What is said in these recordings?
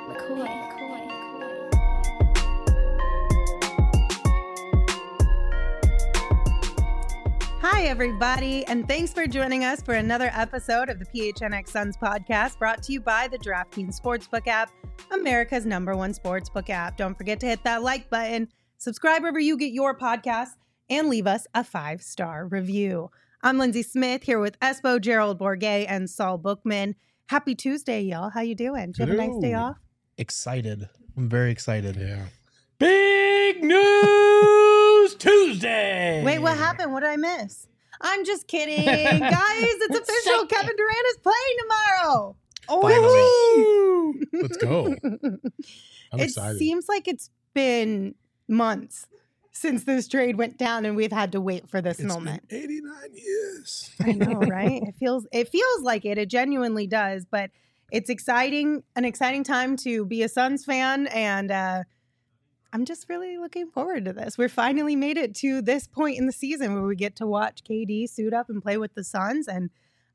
Hi, everybody, and thanks for joining us for another episode of the PHNX Suns podcast, brought to you by the DraftKings Sportsbook app, America's #1 sportsbook app. Don't forget to hit that like button, subscribe wherever you get your podcasts, and leave us a 5-star review. I'm Lindsay Smith here with Espo, Gerald Bourguet, and Saul Bookman. Happy Tuesday, y'all. How you doing? Did you have a nice day off? Excited. I'm very excited. Yeah. Big News Tuesday. Wait, what happened? What did I miss? I'm just kidding. Guys, it's official. Kevin Durant is playing tomorrow. Oh, let's go. I'm excited. It seems like it's been months since this trade went down and we've had to wait for this moment. Been 89 years. I know, right? It feels like it. It genuinely does, but it's exciting, an exciting time to be a Suns fan, and I'm just really looking forward to this. We're finally made it to this point in the season where we get to watch KD suit up and play with the Suns, and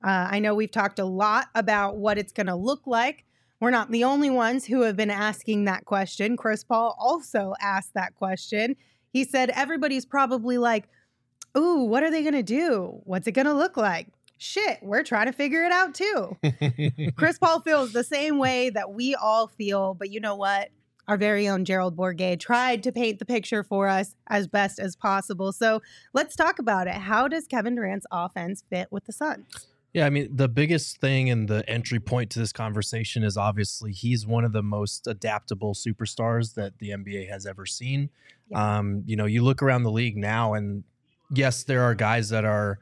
I know we've talked a lot about what it's going to look like. We're not the only ones who have been asking that question. Chris Paul also asked that question. He said everybody's probably like, ooh, what are they going to do? What's it going to look like? Shit, we're trying to figure it out too. Chris Paul feels the same way that we all feel, but you know what? Our very own Gerald Bourguet tried to paint the picture for us as best as possible. So let's talk about it. How does Kevin Durant's offense fit with the Suns? Yeah, I mean, the biggest thing and the entry point to this conversation is obviously he's one of the most adaptable superstars that the NBA has ever seen. Yeah. You look around the league now, and yes, there are guys that are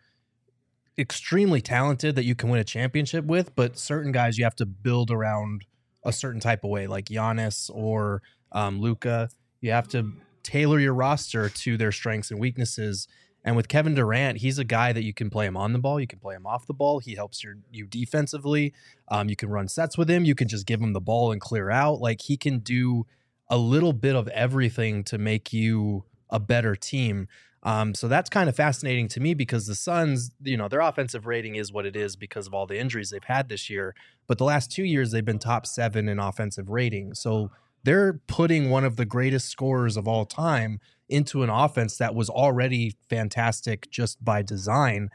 extremely talented that you can win a championship with, but certain guys you have to build around a certain type of way, like Giannis or Luka. You have to tailor your roster to their strengths and weaknesses. And with Kevin Durant, he's a guy that you can play him on the ball. You can play him off the ball. He helps you defensively. You can run sets with him. You can just give him the ball and clear out. Like, he can do a little bit of everything to make you a better team. So that's kind of fascinating to me because the Suns, their offensive rating is what it is because of all the injuries they've had this year. But the last 2 years, they've been top 7 in offensive rating. So they're putting one of the greatest scorers of all time into an offense that was already fantastic just by design.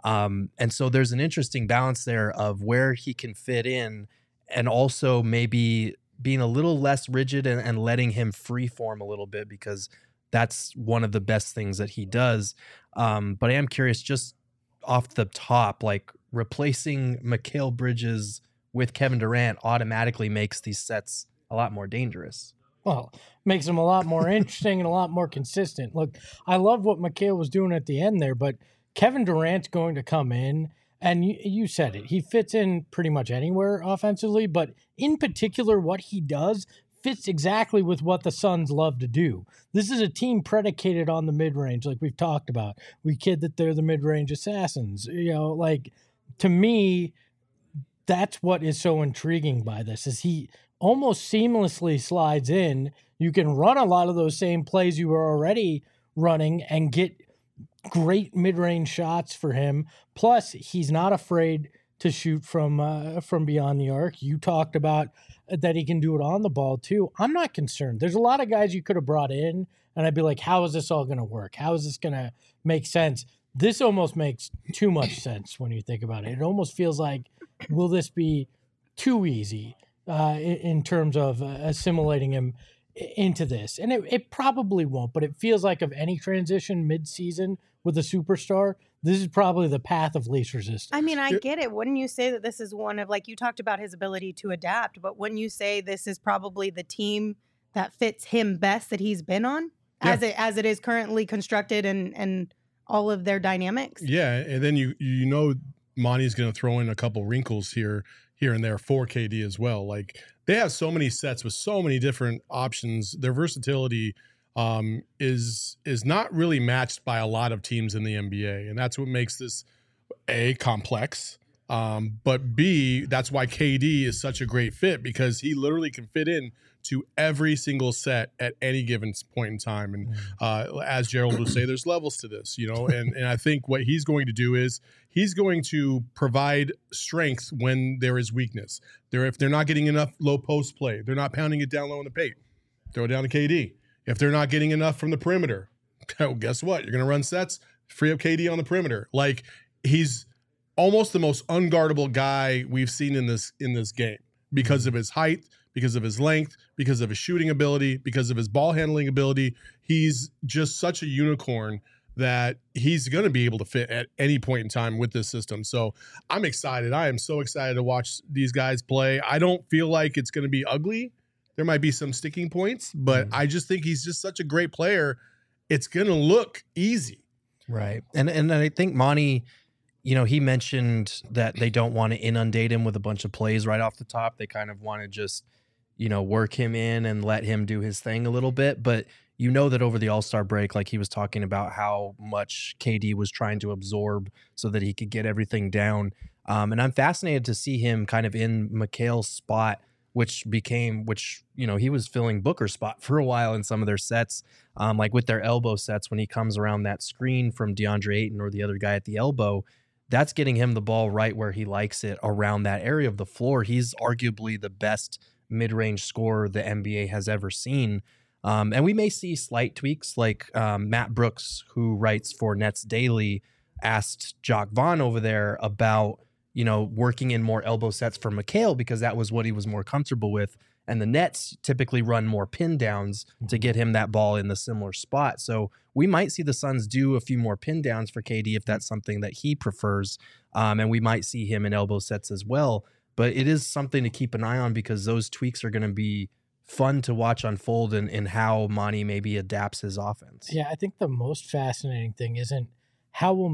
And so there's an interesting balance there of where he can fit in and also maybe being a little less rigid and letting him freeform a little bit because that's one of the best things that he does. But I am curious, just off the top, like replacing Mikal Bridges with Kevin Durant automatically makes these sets a lot more dangerous. Well, makes them a lot more interesting and a lot more consistent. Look, I love what Mikal was doing at the end there, but Kevin Durant's going to come in, and you said it. He fits in pretty much anywhere offensively, but in particular, what he does fits exactly with what the Suns love to do. This is a team predicated on the mid-range, like we've talked about. We kid that they're the mid-range assassins. To me, that's what is so intriguing by this, is he almost seamlessly slides in. You can run a lot of those same plays you were already running and get great mid-range shots for him. Plus, he's not afraid to shoot from beyond the arc. You talked about that he can do it on the ball too. I'm not concerned. There's a lot of guys you could have brought in, and I'd be like, how is this all going to work? How is this going to make sense? This almost makes too much sense when you think about it. It almost feels like, will this be too easy in terms of assimilating him into this? And it probably won't, but it feels like of any transition mid-season with a superstar, this is probably the path of least resistance. I mean, I get it. Wouldn't you say that this is one of, like, you talked about his ability to adapt, but wouldn't you say this is probably the team that fits him best that he's been on as it is currently constructed and all of their dynamics? Yeah, and then Monty's going to throw in a couple wrinkles here and there for KD as well. Like, they have so many sets with so many different options. Their versatility is not really matched by a lot of teams in the NBA, and that's what makes this complex, But B, that's why KD is such a great fit, because he literally can fit in to every single set at any given point in time. And as Gerald would say, there's levels to this, and I think what he's going to do is he's going to provide strength when there is weakness. If they're not getting enough low post play, they're not pounding it down low in the paint, throw it down to KD. If they're not getting enough from the perimeter, guess what? You're going to run sets, free up KD on the perimeter. Like, he's almost the most unguardable guy we've seen in this game because of his height, because of his length, because of his shooting ability, because of his ball handling ability. He's just such a unicorn that he's going to be able to fit at any point in time with this system. So I'm excited. I am so excited to watch these guys play. I don't feel like it's going to be ugly. There might be some sticking points, but I just think he's just such a great player. It's going to look easy. Right. And I think Monty, he mentioned that they don't want to inundate him with a bunch of plays right off the top. They kind of want to just, work him in and let him do his thing a little bit. But that over the All-Star break, like he was talking about how much KD was trying to absorb so that he could get everything down. And I'm fascinated to see him kind of in Mikal's spot, which he was filling Booker's spot for a while in some of their sets, like with their elbow sets when he comes around that screen from DeAndre Ayton or the other guy at the elbow. That's getting him the ball right where he likes it around that area of the floor. He's arguably the best mid-range scorer the NBA has ever seen. And we may see slight tweaks, like Matt Brooks, who writes for Nets Daily, asked Jock Vaughn over there about, working in more elbow sets for Mikal because that was what he was more comfortable with. And the Nets typically run more pin downs to get him that ball in the similar spot. So we might see the Suns do a few more pin downs for KD if that's something that he prefers. And we might see him in elbow sets as well. But it is something to keep an eye on because those tweaks are going to be fun to watch unfold in how Monty maybe adapts his offense. Yeah, I think the most fascinating thing isn't how will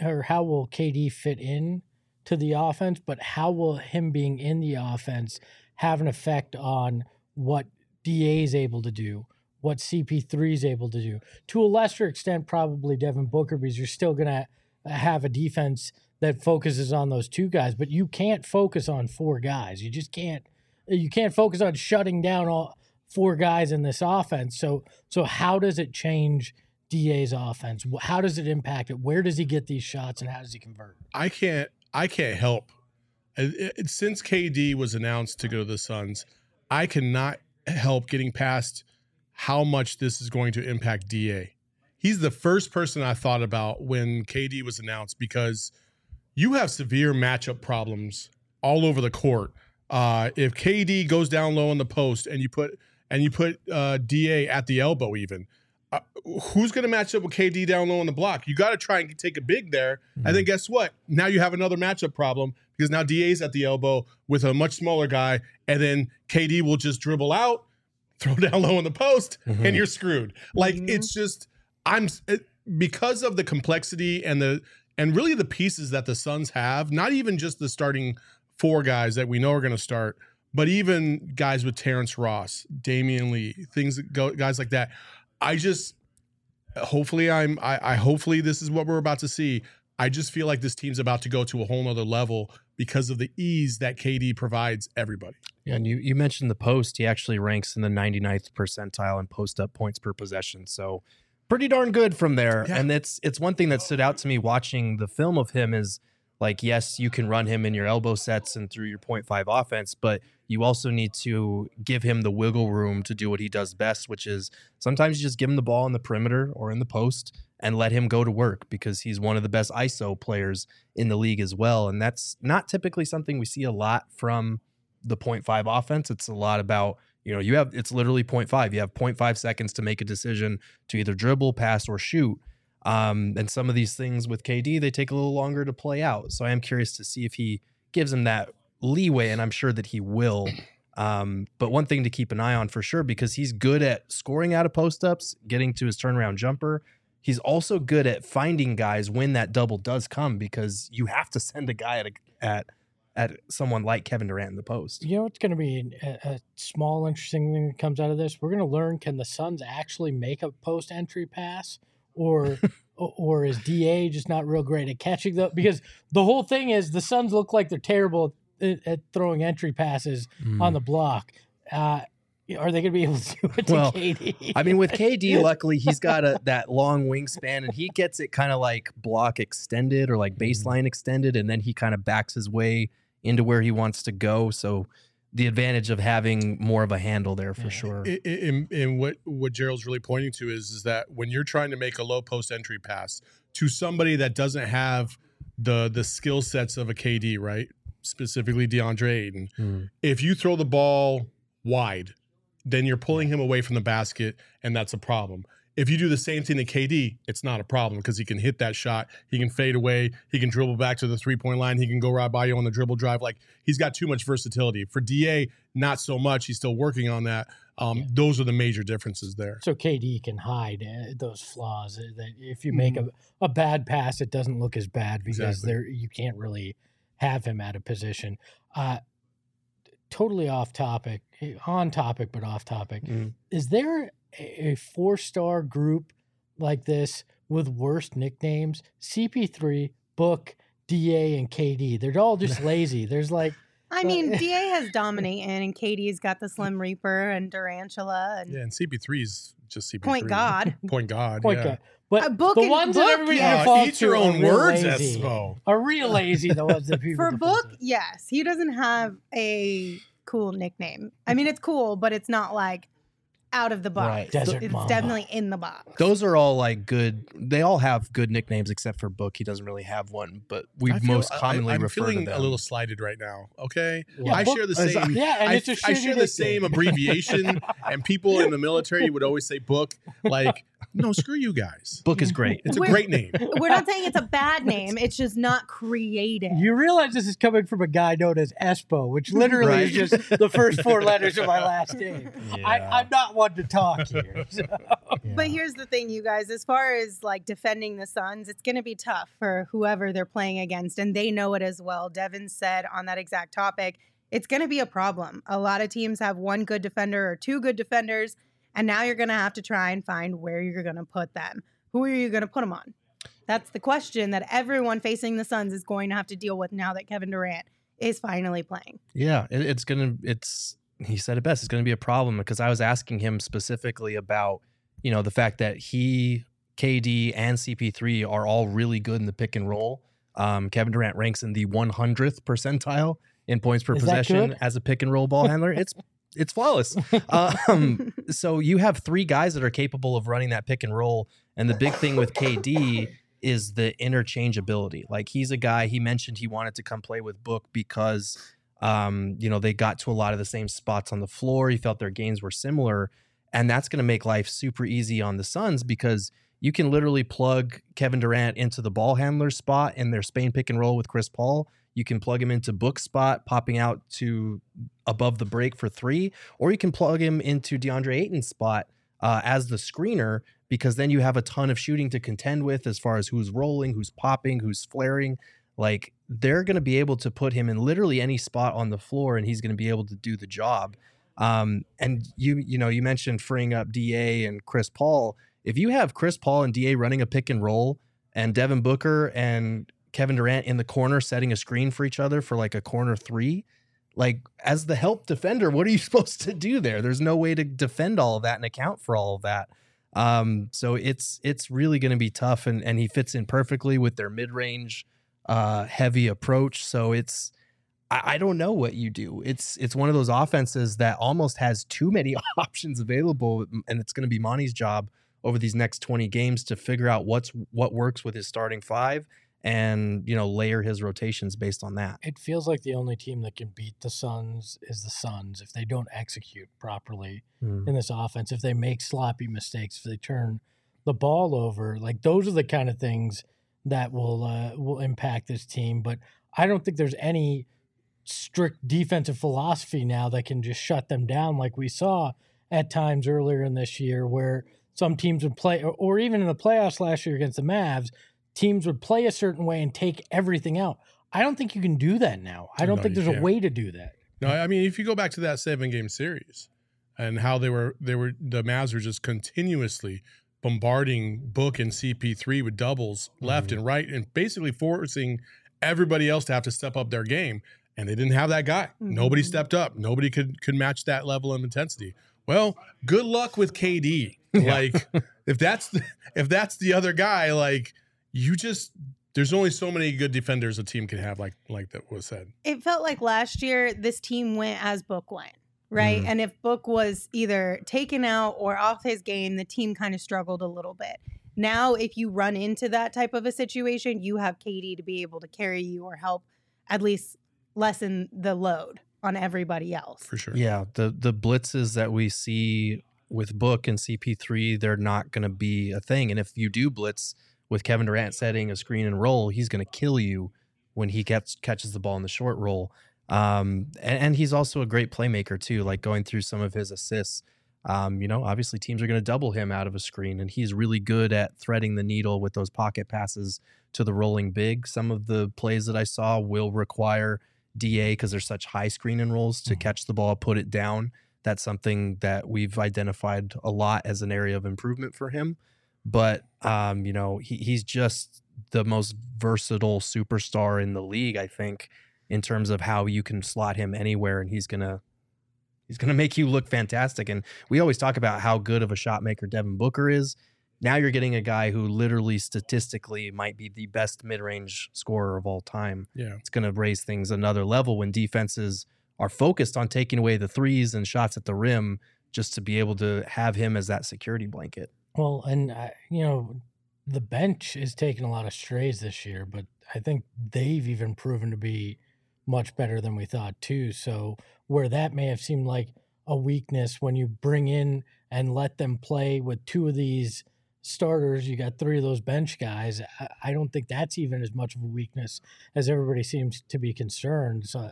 KD fit in to the offense, but how will him being in the offense have an effect on what DA is able to do, what CP3 is able to do. To a lesser extent, probably Devin Booker, because you're still going to have a defense that focuses on those two guys, but you can't focus on four guys. You just can't. You can't focus on shutting down all four guys in this offense. So how does it change DA's offense? How does it impact it? Where does he get these shots, and how does he convert? I can't help. Since KD was announced to go to the Suns, I cannot help getting past how much this is going to impact DA. He's the first person I thought about when KD was announced because you have severe matchup problems all over the court. If KD goes down low in the post and you put DA at the elbow, even who's going to match up with KD down low on the block? You got to try and take a big there. And then guess what? Now you have another matchup problem because now DA's at the elbow with a much smaller guy, and then KD will just dribble out, throw down low in the post, and you're screwed. Like it's just because of the complexity and really the pieces that the Suns have. Not even just the starting four guys that we know are going to start, but even guys with Terrence Ross, Damian Lee, guys like that. Hopefully this is what we're about to see. I just feel like this team's about to go to a whole nother level because of the ease that KD provides everybody. Yeah, and you mentioned the post. He actually ranks in the 99th percentile in post-up points per possession. So pretty darn good from there. Yeah. And it's one thing that stood out to me watching the film of him is, like, yes, you can run him in your elbow sets and through your 0.5 offense, but you also need to give him the wiggle room to do what he does best, which is sometimes you just give him the ball in the perimeter or in the post and let him go to work because he's one of the best ISO players in the league as well. And that's not typically something we see a lot from the 0.5 offense. It's a lot about, it's literally 0.5. You have 0.5 seconds to make a decision to either dribble, pass, or shoot. And some of these things with KD, they take a little longer to play out. So I am curious to see if he gives him that leeway, and I'm sure that he will. But one thing to keep an eye on for sure, because he's good at scoring out of post-ups, getting to his turnaround jumper. He's also good at finding guys when that double does come, because you have to send a guy at someone like Kevin Durant in the post. You know what's going to be a small interesting thing that comes out of this? We're going to learn, can the Suns actually make a post-entry pass? Or or is DA just not real great at catching them? Because the whole thing is the Suns look like they're terrible at throwing entry passes on the block. Are they going to be able to do it to KD? I mean, with KD, luckily he's got that long wingspan, and he gets it kind of like block extended or like baseline extended, and then he kind of backs his way into where he wants to go. So the advantage of having more of a handle there for sure. And what Gerald's really pointing to is that when you're trying to make a low post entry pass to somebody that doesn't have the skill sets of a KD, right? Specifically DeAndre Ayton. If you throw the ball wide, then you're pulling him away from the basket, and that's a problem. If you do the same thing to KD, it's not a problem because he can hit that shot. He can fade away. He can dribble back to the three-point line. He can go right by you on the dribble drive. Like, he's got too much versatility. For DA, not so much. He's still working on that. Those are the major differences there. So KD can hide those flaws. That if you make a bad pass, it doesn't look as bad because you can't really have him at a position. Totally off topic, on topic, but off topic. Is there a 4-star group like this with worse nicknames? CP3, Book, DA, and KD. They're all just lazy. There's like... I mean, DA has Dominating, and KD's got the Slim Reaper and Durantula. And CP3's just CP3. Point God. Point God. But Book the ones that everybody defaults eat your to own are real words, lazy. Espo. Are real lazy, the ones that people For default Book, to. yes. He doesn't have a cool nickname. I mean, it's cool, but it's not like out of the box. Right. Desert It's Mamba. definitely in the box. Those are all like good. They all have good nicknames except for Book. He doesn't really have one, but we most commonly I'm refer to feeling them. a little slighted right now. Okay, Yeah, I Book- share the same. Yeah, and it's a I shitty share the nickname. same abbreviation, and people in the military would always say Book. Like, no, screw you guys. Book is great. It's a We're- great name. We're not saying it's a bad name. It's just not creative. You realize this is coming from a guy known as Espo, which literally is just the first 4 letters of my last name. I'm not one to talk here. So. But here's the thing, you guys. As far as like defending the Suns, it's going to be tough for whoever they're playing against, and they know it as well. Devin said on that exact topic, it's going to be a problem. A lot of teams have one good defender or 2 good defenders, and now you're going to have to try and find where you're going to put them. Who are you going to put them on? That's the question that everyone facing the Suns is going to have to deal with now that Kevin Durant is finally playing. Yeah, he said it best. It's going to be a problem because I was asking him specifically about, the fact that he, KD, and CP3 are all really good in the pick and roll. Kevin Durant ranks in the 100th percentile in points per possession as a pick and roll ball handler. It's flawless. So you have 3 guys that are capable of running that pick and roll. And the big thing with KD is the interchangeability. Like, he's a guy, he mentioned he wanted to come play with Book because, they got to a lot of the same spots on the floor. He felt their games were similar. And that's going to make life super easy on the Suns because you can literally plug Kevin Durant into the ball handler spot in their Spain pick and roll with Chris Paul. You can plug him into Book spot, popping out to above the break for 3, or you can plug him into DeAndre Ayton's spot as the screener, because then you have a ton of shooting to contend with as far as who's rolling, who's popping, who's flaring. Like, they're going to be able to put him in literally any spot on the floor, and he's going to be able to do the job. And you mentioned freeing up DA and Chris Paul. If you have Chris Paul and DA running a pick and roll, and Devin Booker and Kevin Durant in the corner setting a screen for each other for like a corner 3, like, as the help defender, what are you supposed to do there? There's no way to defend all of that and account for all of that. So it's really going to be tough, and he fits in perfectly with their mid-range heavy approach. So I don't know what you do. It's one of those offenses that almost has too many options available, and it's going to be Monty's job over these next 20 games to figure out what works with his starting 5 and, layer his rotations based on that. It feels like the only team that can beat the Suns is the Suns if they don't execute properly in this offense, if they make sloppy mistakes, if they turn the ball over. Like, those are the kind of things that will impact this team. But I don't think there's any strict defensive philosophy now that can just shut them down like we saw at times earlier in this year where some teams would play, or even in the playoffs last year against the Mavs, teams would play a certain way and take everything out. I don't think you can do that now. I don't think there's a way to do that. No, I mean, if you go back to that 7-game series and how the Mavs were just continuously bombarding Book and CP3 with doubles left and right, and basically forcing everybody else to have to step up their game. And they didn't have that guy. Nobody stepped up. Nobody could match that level of intensity. Well, good luck with KD. Like if that's the other guy, like there's only so many good defenders a team can have, like that was said. It felt like last year this team went as Book went, right? And if Book was either taken out or off his game, the team kind of struggled a little bit. Now, if you run into that type of a situation, you have KD to be able to carry you or help at least lessen the load on everybody else. For sure. Yeah, the blitzes that we see with Book and CP3, they're not going to be a thing. And if you do blitz with Kevin Durant setting a screen and roll, he's going to kill you when he catches the ball in the short roll. And he's also a great playmaker too, like going through some of his assists. Obviously teams are going to double him out of a screen, and he's really good at threading the needle with those pocket passes to the rolling big. Some of the plays that I saw will require DA because there's such high screen and rolls to catch the ball, put it down. That's something that we've identified a lot as an area of improvement for him. But, he's just the most versatile superstar in the league, I think, in terms of how you can slot him anywhere, and he's going to make you look fantastic. And we always talk about how good of a shot maker Devin Booker is. Now you're getting a guy who literally statistically might be the best mid-range scorer of all time. Yeah. It's going to raise things another level when defenses are focused on taking away the threes and shots at the rim just to be able to have him as that security blanket. Well, and, the bench is taking a lot of strays this year, but I think they've even proven to be much better than we thought too. So where that may have seemed like a weakness when you bring in and let them play with two of these starters, you got three of those bench guys. I don't think that's even as much of a weakness as everybody seems to be concerned. So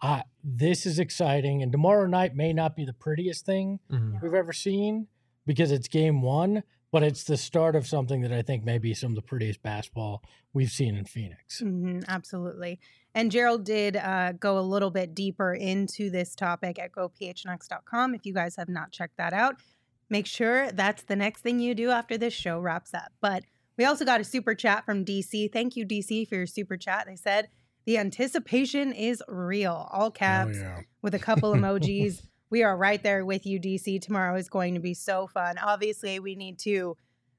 this is exciting. And tomorrow night may not be the prettiest thing we've ever seen because it's game one, but it's the start of something that I think may be some of the prettiest basketball we've seen in Phoenix. Absolutely. And Gerald did go a little bit deeper into this topic at gophnx.com. If you guys have not checked that out, make sure that's the next thing you do after this show wraps up. But we also got a super chat from DC. Thank you, DC, for your super chat. They said, the anticipation is real. All caps with a couple emojis. We are right there with you, DC. Tomorrow is going to be so fun. Obviously, we need to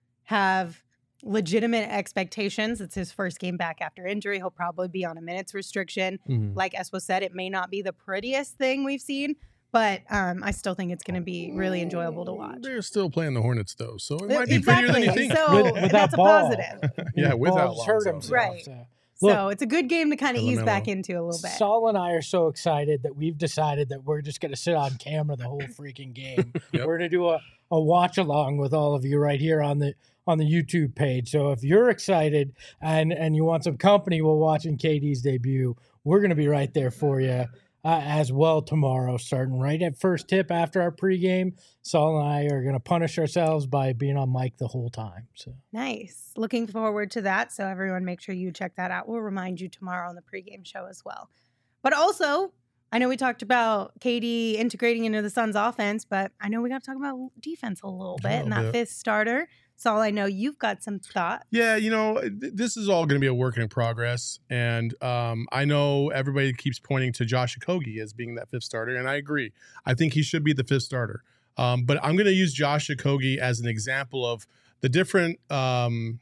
have legitimate expectations. It's his first game back after injury. He'll probably be on a minutes restriction. Like Espo said, it may not be the prettiest thing we've seen, but I still think it's going to be really enjoyable to watch. They're still playing the Hornets, though, so it might be prettier than you think. So that's a positive. Without hurt Lonzo. himself. Right. Look, So it's a good game to kind of ease back into a little bit. Saul and I are so excited that we've decided that we're just going to sit on camera the whole freaking game. We're going to do a watch along with all of you right here on the YouTube page. So if you're excited and you want some company while watching KD's debut, we're going to be right there for you as well tomorrow, starting right at first tip after our pregame. Saul and I are going to punish ourselves by being on mic the whole time. So nice. Looking forward to that. So everyone make sure you check that out. We'll remind you tomorrow on the pregame show as well. But also, I know we talked about KD integrating into the Suns offense, but I know we got to talk about defense a little bit and that fifth starter. Saul, I know you've got some thoughts. Yeah, this is all going to be a work in progress. And I know everybody keeps pointing to Josh Okogie as being that fifth starter, and I agree. I think he should be the fifth starter. But I'm going to use Josh Okogie as an example of the different, the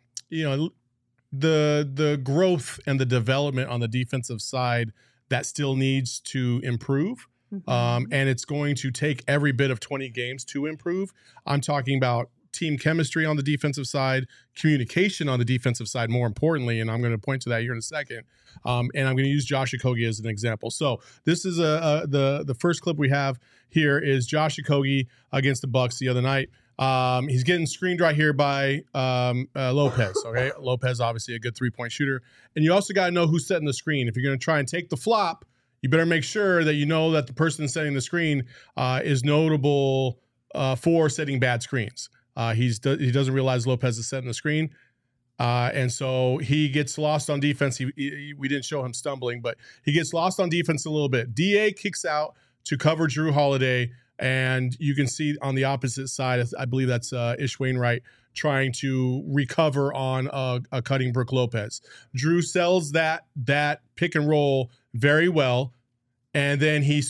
growth and the development on the defensive side that still needs to improve. And it's going to take every bit of 20 games to improve. I'm talking about team chemistry on the defensive side, communication on the defensive side, more importantly, and I'm going to point to that here in a second. And I'm going to use Josh Okogie as an example. So this is the first clip we have here is Josh Okogie against the Bucks the other night. He's getting screened right here by Lopez. Okay, Lopez obviously a good 3-point shooter, and you also got to know who's setting the screen. If you're going to try and take the flop, you better make sure that you know that the person setting the screen is notable for setting bad screens. He doesn't realize Lopez is setting the screen. And so he gets lost on defense. We didn't show him stumbling, but he gets lost on defense a little bit. DA kicks out to cover Drew Holiday, And you can see on the opposite side, I believe that's Ish Wainwright trying to recover on a cutting Brook Lopez. Drew sells that pick and roll very well, and then he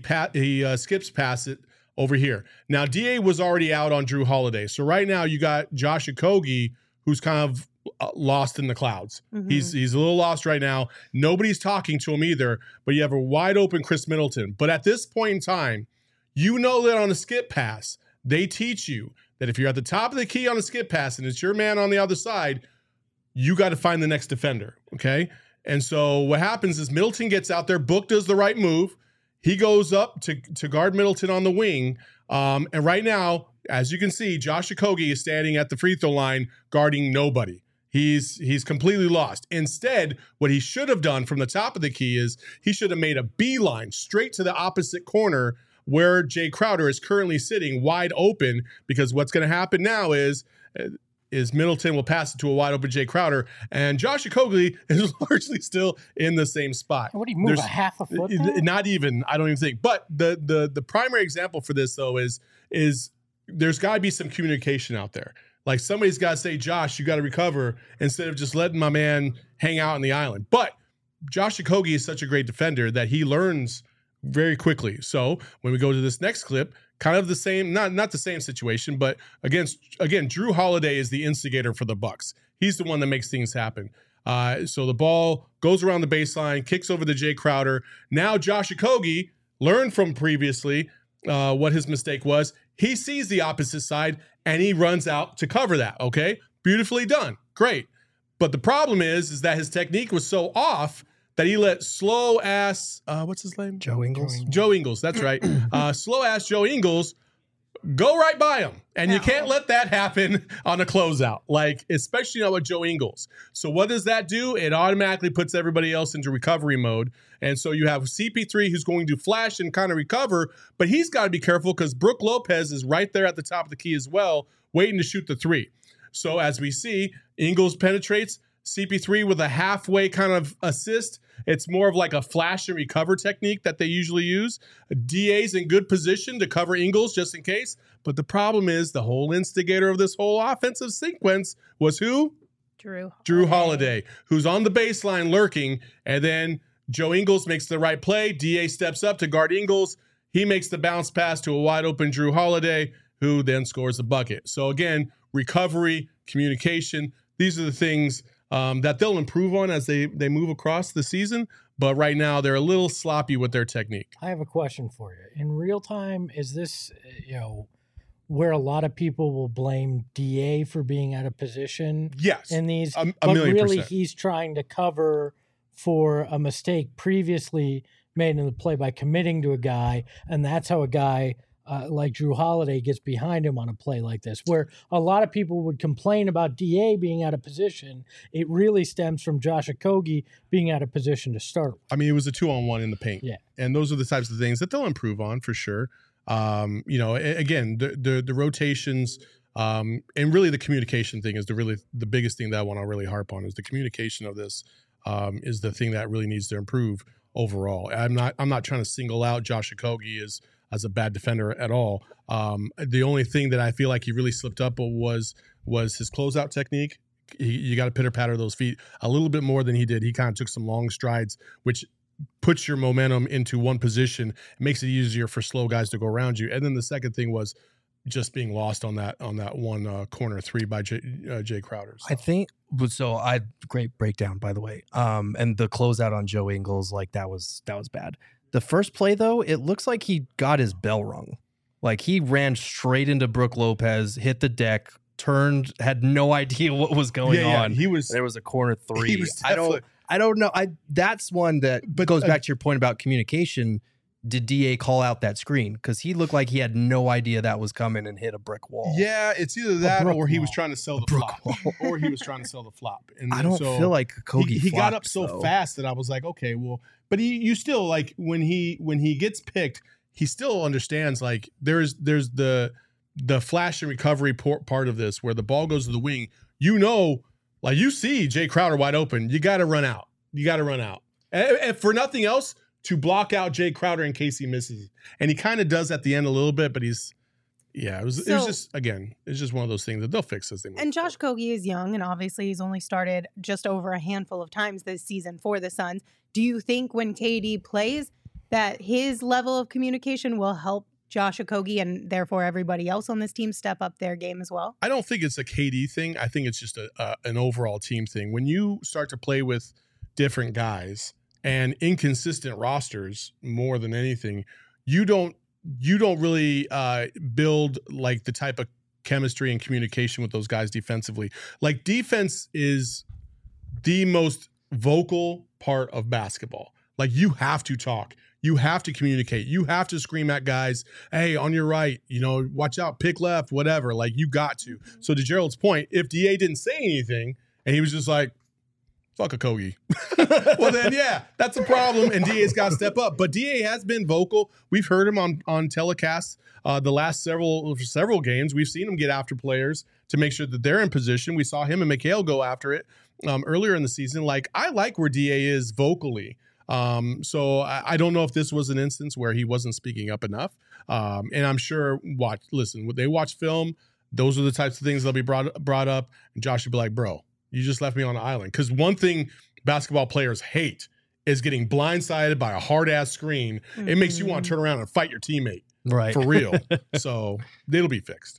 skips past it over here. Now, DA was already out on Drew Holiday. So right now you got Josh Okogie, who's kind of lost in the clouds. Mm-hmm. He's a little lost right now. Nobody's talking to him either, but you have a wide open Chris Middleton. But at this point in time, you know that on the skip pass, they teach you that if you're at the top of the key on a skip pass and it's your man on the other side, you got to find the next defender, okay? And so what happens is Middleton gets out there, Book does the right move. He goes up to guard Middleton on the wing. And right now, as you can see, Josh Okogie is standing at the free throw line guarding nobody. He's completely lost. Instead, what he should have done from the top of the key is he should have made a beeline straight to the opposite corner where Jay Crowder is currently sitting wide open, because what's going to happen now is Middleton will pass it to a wide open Jay Crowder, and Josh Okogie is largely still in the same spot. What do you move, a half a foot there? Not even, I don't even think. But the primary example for this, though, is there's got to be some communication out there. Like, somebody's got to say, Josh, you got to recover, instead of just letting my man hang out on the island. But Josh Okogie is such a great defender that he learns very quickly. So when we go to this next clip, kind of the same, not the same situation, but again, Drew Holiday is the instigator for the Bucks. He's the one that makes things happen. So the ball goes around the baseline, kicks over to Jay Crowder. Now Josh Okogie learned from previously what his mistake was. He sees the opposite side and he runs out to cover that. Okay, beautifully done, great. But the problem is that his technique was so off that he let slow ass, what's his name? Joe Ingles. Joe Ingles, that's right. Slow ass Joe Ingles go right by him. And you can't let that happen on a closeout, like, especially not with Joe Ingles. So what does that do? It automatically puts everybody else into recovery mode. And so you have CP3 who's going to flash and kind of recover, but he's got to be careful because Brook Lopez is right there at the top of the key as well, waiting to shoot the three. So as we see, Ingles penetrates, CP3 with a halfway kind of assist. It's more of like a flash and recover technique that they usually use. DA's in good position to cover Ingles just in case. But the problem is the whole instigator of this whole offensive sequence was who? Drew Holiday, who's on the baseline lurking. And then Joe Ingles makes the right play. DA steps up to guard Ingles. He makes the bounce pass to a wide open Drew Holiday, who then scores the bucket. So again, recovery, communication, these are the things that they'll improve on as they move across the season. But right now, they're a little sloppy with their technique. I have a question for you. In real time, is this, where a lot of people will blame DA for being out of position? Yes. In these, but really he's trying to cover for a mistake previously made in the play by committing to a guy, and that's how a guy like Drew Holiday gets behind him on a play like this, where a lot of people would complain about DA being out of position. It really stems from Josh Okogie being out of position to start. I mean, it was a 2-on-1 in the paint. Yeah. And those are the types of things that they'll improve on for sure. Again, the rotations, and really the communication thing is the biggest thing that I want to really harp on. Is the communication of this is the thing that really needs to improve overall. I'm not trying to single out Josh Okogie as a bad defender at all. The only thing that I feel like he really slipped up was his closeout technique. You got to pitter patter those feet a little bit more than he did. He kind of took some long strides, which puts your momentum into one position. It makes it easier for slow guys to go around you. And then the second thing was just being lost on that one corner three by Jay Crowder. So. I think so. Great breakdown, by the way. And the closeout on Joe Ingles, like that was bad. The first play, though, it looks like he got his bell rung. Like he ran straight into Brook Lopez, hit the deck, turned, had no idea what was going on. There was a corner three. I don't know. That's one that goes back to your point about communication. Did DA call out that screen? Because he looked like he had no idea that was coming and hit a brick wall. Yeah, it's either that or he was trying to sell the flop. And I don't feel like Okogie he got up so fast that I was like, okay, well, but you still, like, when he gets picked, he still understands, like, there's the flash and recovery part of this where the ball goes to the wing. Like, you see Jay Crowder wide open. You got to run out. And for nothing else, to block out Jay Crowder in case he misses. And he kind of does at the end a little bit, but it was just one of those things that they'll fix as they move. And Josh Okogie is young, and obviously he's only started just over a handful of times this season for the Suns. Do you think when KD plays that his level of communication will help Josh Okogie and therefore everybody else on this team step up their game as well? I don't think it's a KD thing. I think it's just an overall team thing. When you start to play with different guys and inconsistent rosters more than anything, you don't really build like the type of chemistry and communication with those guys defensively. Like defense is the most vocal part of basketball. Like you have to talk. You have to communicate. You have to scream at guys, hey, on your right, watch out, pick left, whatever. Like you got to. So to Gerald's point, if DA didn't say anything and he was just like, fuck Okogie, well then, yeah, that's a problem. And DA's got to step up. But DA has been vocal. We've heard him on telecasts the last several games. We've seen him get after players to make sure that they're in position. We saw him and Mikal go after it earlier in the season. Like I like where DA is vocally. So I don't know if this was an instance where he wasn't speaking up enough. And I'm sure when they watch film, those are the types of things that'll be brought up. And Josh would be like, bro, you just left me on the island. Because one thing basketball players hate is getting blindsided by a hard ass screen. Mm-hmm. It makes you want to turn around and fight your teammate. Right. For real. So it'll be fixed.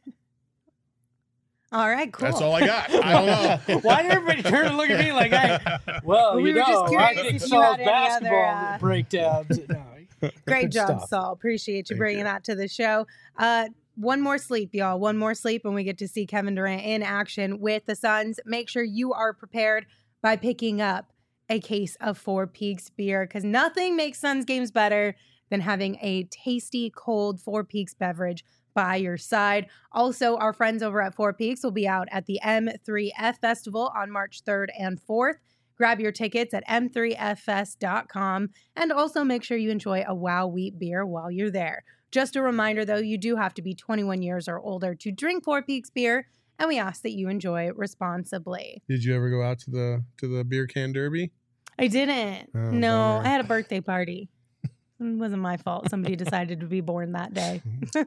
All right, cool. That's all I got. I don't know. Why did everybody turn and look at me like, we were just curious if you had any basketball other, breakdowns. No, great job, stuff. Saul. Appreciate you bringing that to the show. One more sleep, y'all. One more sleep, and we get to see Kevin Durant in action with the Suns. Make sure you are prepared by picking up a case of Four Peaks beer, because nothing makes Suns games better than having a tasty, cold Four Peaks beverage by your side. Also, our friends over at Four Peaks will be out at the M3F Festival on March 3rd and 4th. Grab your tickets at m3ffest.com, and also make sure you enjoy a Wow Wheat beer while you're there. Just a reminder, though, you do have to be 21 years or older to drink Four Peaks beer, and we ask that you enjoy responsibly. Did you ever go out to the beer can derby? I didn't. Oh, no, bummer. I had a birthday party. It wasn't my fault. Somebody decided to be born that day.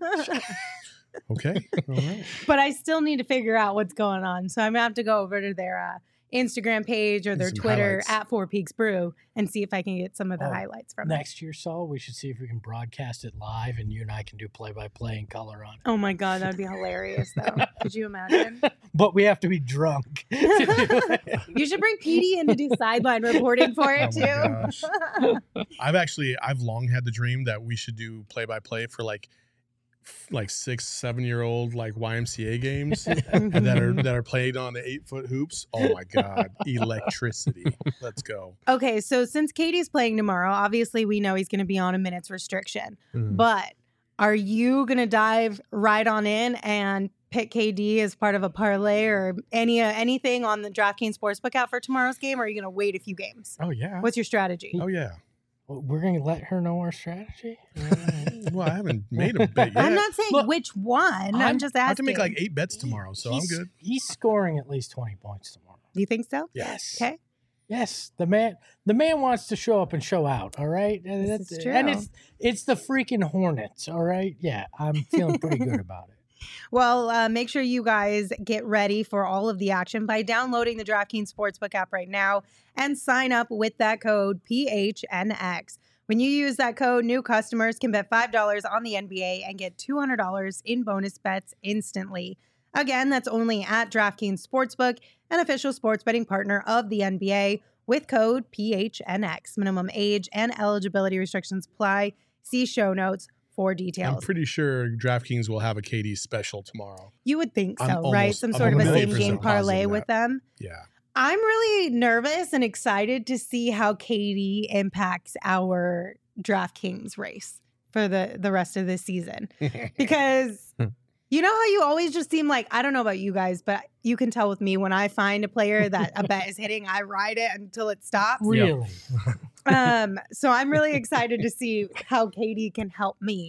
Okay. All right. But I still need to figure out what's going on. So I'm going to have to go over to their Instagram page or their Some Twitter highlights. at Four Peaks Brew and see if I can get some of the highlights from it. Next year, Saul, we should see if we can broadcast it live and you and I can do play-by-play in color on it. Oh my God, that would be hilarious though. Could you imagine? But we have to be drunk. You should bring Petey in to do sideline reporting for it Oh my too. gosh. I've long had the dream that we should do play-by-play for like 6-7-year-old like YMCA games that are played on the 8-foot hoops. Oh my God. Electricity. Let's go. Okay, so since Katie's playing tomorrow, obviously we know he's going to be on a minutes restriction. But are you going to dive right on in and pick KD as part of a parlay or anything on the DraftKings Sportsbook out for tomorrow's game? Or are you going to wait a few games? Oh yeah. What's your strategy? Oh yeah. We're going to let her know our strategy? Well, I haven't made a bet yet. I'm not saying which one. I'm just asking. I can make like 8 bets tomorrow, so I'm good. He's scoring at least 20 points tomorrow. Do you think so? Yes. Okay. Yes, the man wants to show up and show out. All right, This is true. And it's the freaking Hornets. All right, yeah, I'm feeling pretty good about it. Well, make sure you guys get ready for all of the action by downloading the DraftKings Sportsbook app right now and sign up with that code PHNX. When you use that code, new customers can bet $5 on the NBA and get $200 in bonus bets instantly. Again, that's only at DraftKings Sportsbook, an official sports betting partner of the NBA, with code PHNX. Minimum age and eligibility restrictions apply. See show notes for details. I'm pretty sure DraftKings will have a KD special tomorrow. You would think so, I'm right? almost- Some I'm sort of a 100% same-game parlay positive with that. them. Yeah. I'm really nervous and excited to see how KD impacts our DraftKings race for the rest of this season. Because you know how you always just seem like, I don't know about you guys, but you can tell with me when I find a player that a bet is hitting, I ride it until it stops. Really? So I'm really excited to see how KD can help me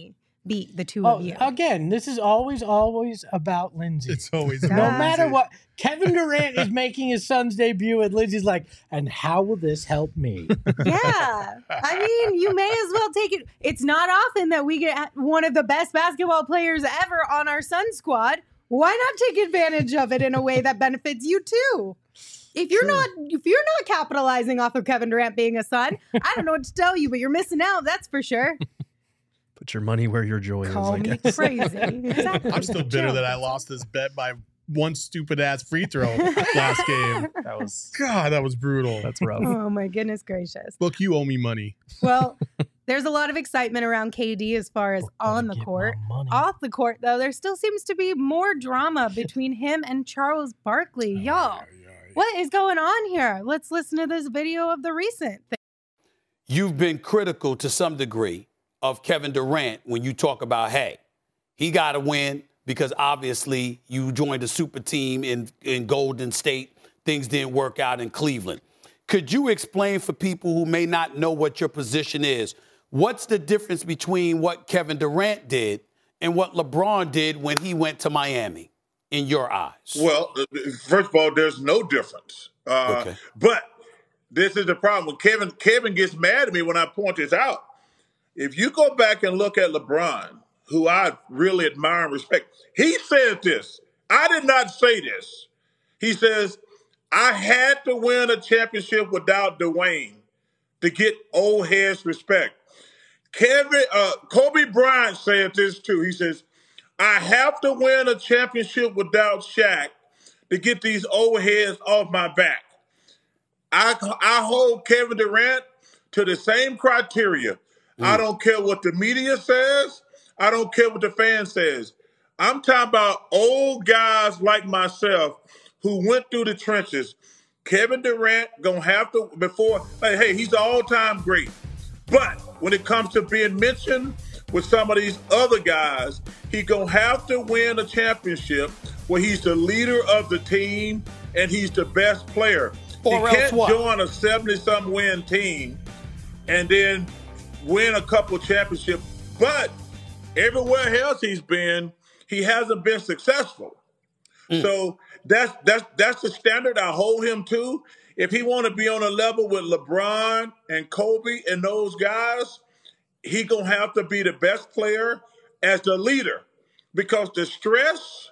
beat the two of you. Again, this is always about Lindsay. It's always no about matter Lindsay. what. Kevin Durant is making his son's debut, and Lindsay's like, and how will this help me? Yeah. I mean, you may as well take it. It's not often that we get one of the best basketball players ever on our Sun squad. Why not take advantage of it in a way that benefits you too? If you're not capitalizing off of Kevin Durant being a Sun, I don't know what to tell you, but you're missing out, that's for sure. Put your money where your joy Call is, I me guess. crazy. Exactly. I'm still bitter that I lost this bet by one stupid ass free throw last game. God, that was brutal. That's rough. Oh my goodness gracious. Look, you owe me money. Well, there's a lot of excitement around KD as far as on the court. Off the court, though, there still seems to be more drama between him and Charles Barkley. Y'all, what is going on here? Let's listen to this video of the recent thing. You've been critical to some degree of Kevin Durant when you talk about, hey, he got to win because obviously you joined a super team in Golden State. Things didn't work out in Cleveland. Could you explain for people who may not know what your position is, what's the difference between what Kevin Durant did and what LeBron did when he went to Miami, in your eyes? Well, first of all, there's no difference. Okay. But this is the problem. Kevin gets mad at me when I point this out. If you go back and look at LeBron, who I really admire and respect, he said this. I did not say this. He says, I had to win a championship without Dwayne to get old heads respect. Kobe Bryant said this too. He says, I have to win a championship without Shaq to get these old heads off my back. I hold Kevin Durant to the same criteria. I don't care what the media says. I don't care what the fan says. I'm talking about old guys like myself who went through the trenches. Kevin Durant gonna have to, hey, he's an all-time great. But when it comes to being mentioned with some of these other guys, he gonna have to win a championship where he's the leader of the team and he's the best player. Or he else can't what? join a 70-something win team and then win a couple championships. But everywhere else he's been, he hasn't been successful. So that's the standard I hold him to. If he want to be on a level with LeBron and Kobe and those guys, he gonna have to be the best player as the leader, because the stress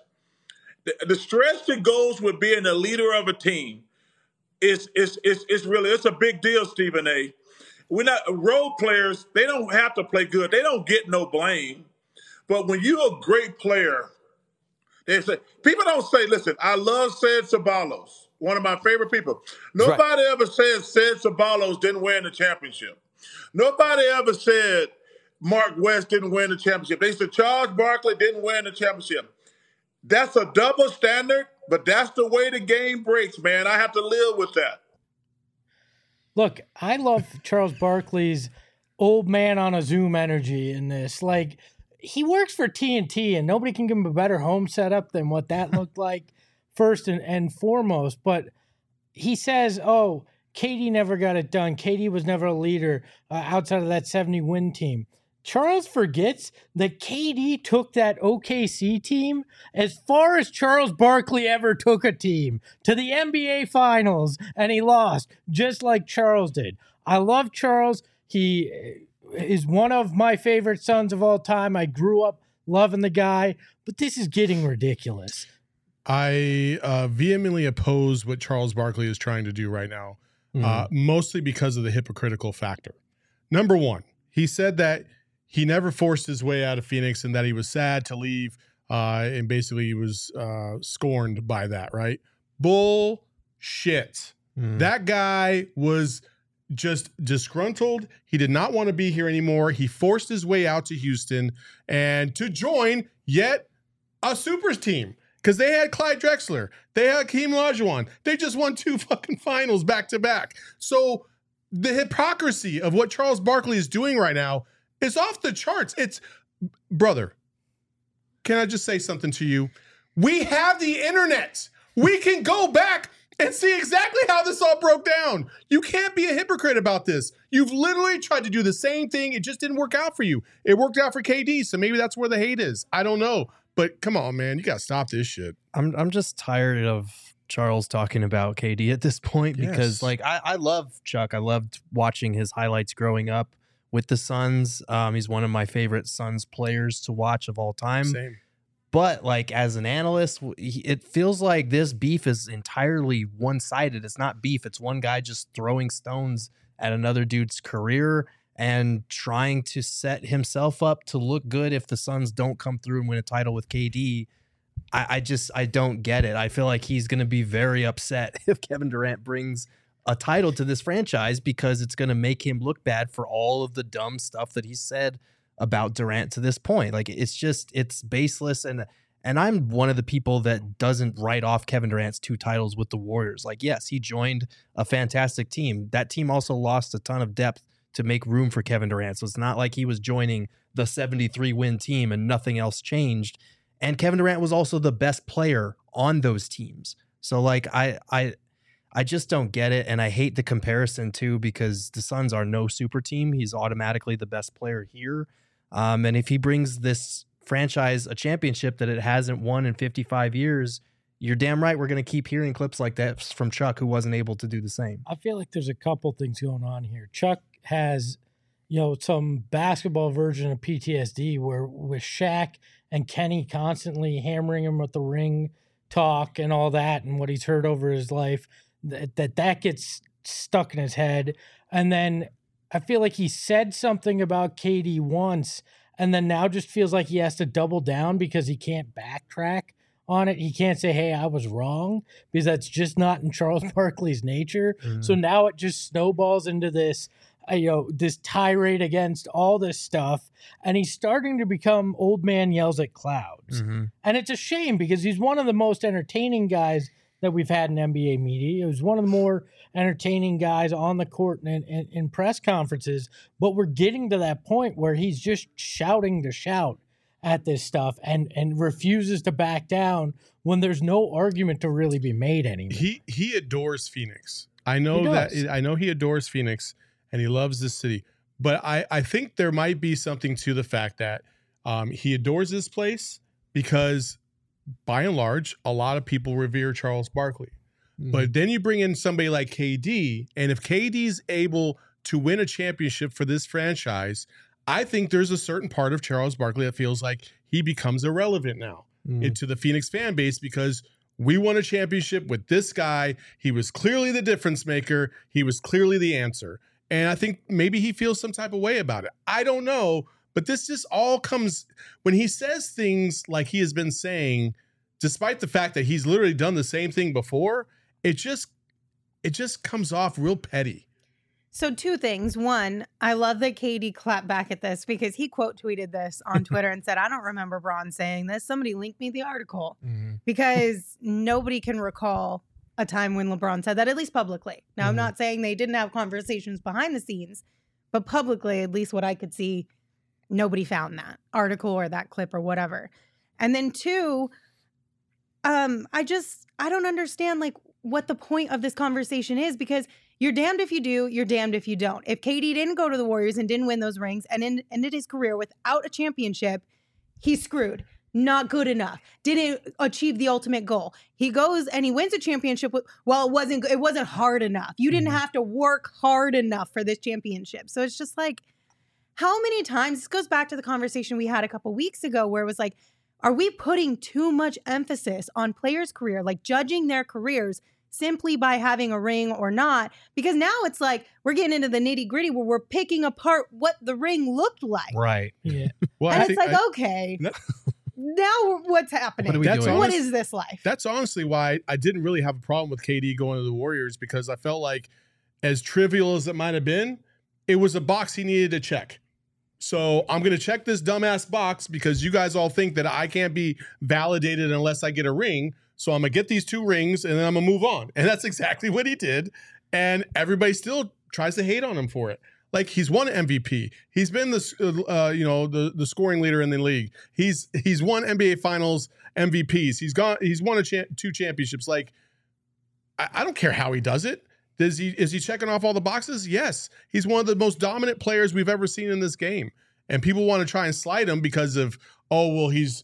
that goes with being the leader of a team is really, it's a big deal, Stephen A. We're not role players. They don't have to play good. They don't get no blame. But when you're a great player, they say, people don't say, listen, I love Ced Ceballos, one of my favorite people. Nobody ever said Ced Ceballos didn't win the championship. Nobody ever said Mark West didn't win the championship. They said Charles Barkley didn't win the championship. That's a double standard, but that's the way the game breaks, man. I have to live with that. Look, I love Charles Barkley's old man on a Zoom energy in this. Like, he works for TNT, and nobody can give him a better home setup than what that looked like, first and foremost. But he says, oh, KD never got it done. KD was never a leader outside of that 70-win team. Charles forgets that KD took that OKC team as far as Charles Barkley ever took a team, to the NBA Finals, and he lost, just like Charles did. I love Charles. He is one of my favorite sons of all time. I grew up loving the guy, but this is getting ridiculous. I vehemently oppose what Charles Barkley is trying to do right now, mostly because of the hypocritical factor. Number one, he said that he never forced his way out of Phoenix and that he was sad to leave, and basically he was scorned by that, right? Bullshit. That guy was just disgruntled. He did not want to be here anymore. He forced his way out to Houston and to join yet a supers team, because they had Clyde Drexler. They had Hakeem Olajuwon. They just won 2 fucking finals back to back. So the hypocrisy of what Charles Barkley is doing right now is off the charts. It's, brother, can I just say something to you? We have the internet. We can go back and see exactly how this all broke down. You can't be a hypocrite about this. You've literally tried to do the same thing. It just didn't work out for you. It worked out for KD, so maybe that's where the hate is. I don't know. But come on, man. You got to stop this shit. I'm just tired of Charles talking about KD at this point because, Yes. like, I love Chuck. I loved watching his highlights growing up with the Suns. He's one of my favorite Suns players to watch of all time. Same. But, like, as an analyst, it feels like this beef is entirely one-sided. It's not beef. It's one guy just throwing stones at another dude's career and trying to set himself up to look good if the Suns don't come through and win a title with KD. I don't get it. I feel like he's going to be very upset if Kevin Durant brings a title to this franchise because it's going to make him look bad for all of the dumb stuff that he said about Durant to this point. Like, it's baseless. And I'm one of the people that doesn't write off Kevin Durant's 2 titles with the Warriors. Like, yes, he joined a fantastic team. That team also lost a ton of depth to make room for Kevin Durant. So it's not like he was joining the 73-win team and nothing else changed. And Kevin Durant was also the best player on those teams. So, like, I just don't get it. And I hate the comparison too, because the Suns are no super team. He's automatically the best player here. And if he brings this franchise a championship that it hasn't won in 55 years, you're damn right we're going to keep hearing clips like that from Chuck, who wasn't able to do the same. I feel like there's a couple things going on here. Chuck has, some basketball version of PTSD where with Shaq and Kenny constantly hammering him with the ring talk and all that and what he's heard over his life, that gets stuck in his head. And then I feel like he said something about KD once and then now just feels like he has to double down because he can't backtrack on it. He can't say, hey, I was wrong, because that's just not in Charles Barkley's nature. Mm. So now it just snowballs into this, this tirade against all this stuff. And he's starting to become old man yells at clouds. Mm-hmm. And it's a shame because he's one of the most entertaining guys that we've had in NBA media. He was one of the more entertaining guys on the court and in press conferences. But we're getting to that point where he's just shouting to shout at this stuff and refuses to back down when there's no argument to really be made anymore. He adores Phoenix. I know he adores Phoenix and he loves this city. But I think there might be something to the fact that he adores this place because, by and large, a lot of people revere Charles Barkley. Mm-hmm. But then you bring in somebody like KD, and if KD's able to win a championship for this franchise, I think there's a certain part of Charles Barkley that feels like he becomes irrelevant now to the Phoenix fan base because we won a championship with this guy. He was clearly the difference maker. He was clearly the answer. And I think maybe he feels some type of way about it. I don't know. But this just all comes when he says things like he has been saying, despite the fact that he's literally done the same thing before. It just comes off real petty. So 2 things. One, I love that KD clapped back at this because he quote tweeted this on Twitter and said, I don't remember Bron saying this. Somebody linked me the article because nobody can recall a time when LeBron said that, at least publicly. Now, I'm not saying they didn't have conversations behind the scenes, but publicly, at least what I could see, nobody found that article or that clip or whatever. And then 2, I don't understand like what the point of this conversation is, because you're damned if you do, you're damned if you don't. If KD didn't go to the Warriors and didn't win those rings and ended his career without a championship, he's screwed. Not good enough. Didn't achieve the ultimate goal. He goes and he wins a championship. It wasn't hard enough. You didn't have to work hard enough for this championship. So it's just like, how many times, this goes back to the conversation we had a couple weeks ago where it was like, are we putting too much emphasis on players' career, like judging their careers simply by having a ring or not? Because now it's like we're getting into the nitty gritty where we're picking apart what the ring looked like. Right. Yeah. Well, And it's like, okay, now what's happening? What are we doing? What is this life? That's honestly why I didn't really have a problem with KD going to the Warriors, because I felt like, as trivial as it might have been, it was a box he needed to check. So I'm going to check this dumbass box because you guys all think that I can't be validated unless I get a ring. So I'm going to get these 2 rings and then I'm going to move on. And that's exactly what he did. And everybody still tries to hate on him for it. Like, he's won MVP. He's been the scoring leader in the league. He's won NBA Finals MVPs. He's won 2 championships. Like, I don't care how he does it. Is he checking off all the boxes? Yes. He's one of the most dominant players we've ever seen in this game. And people want to try and slide him because of, oh, well, he's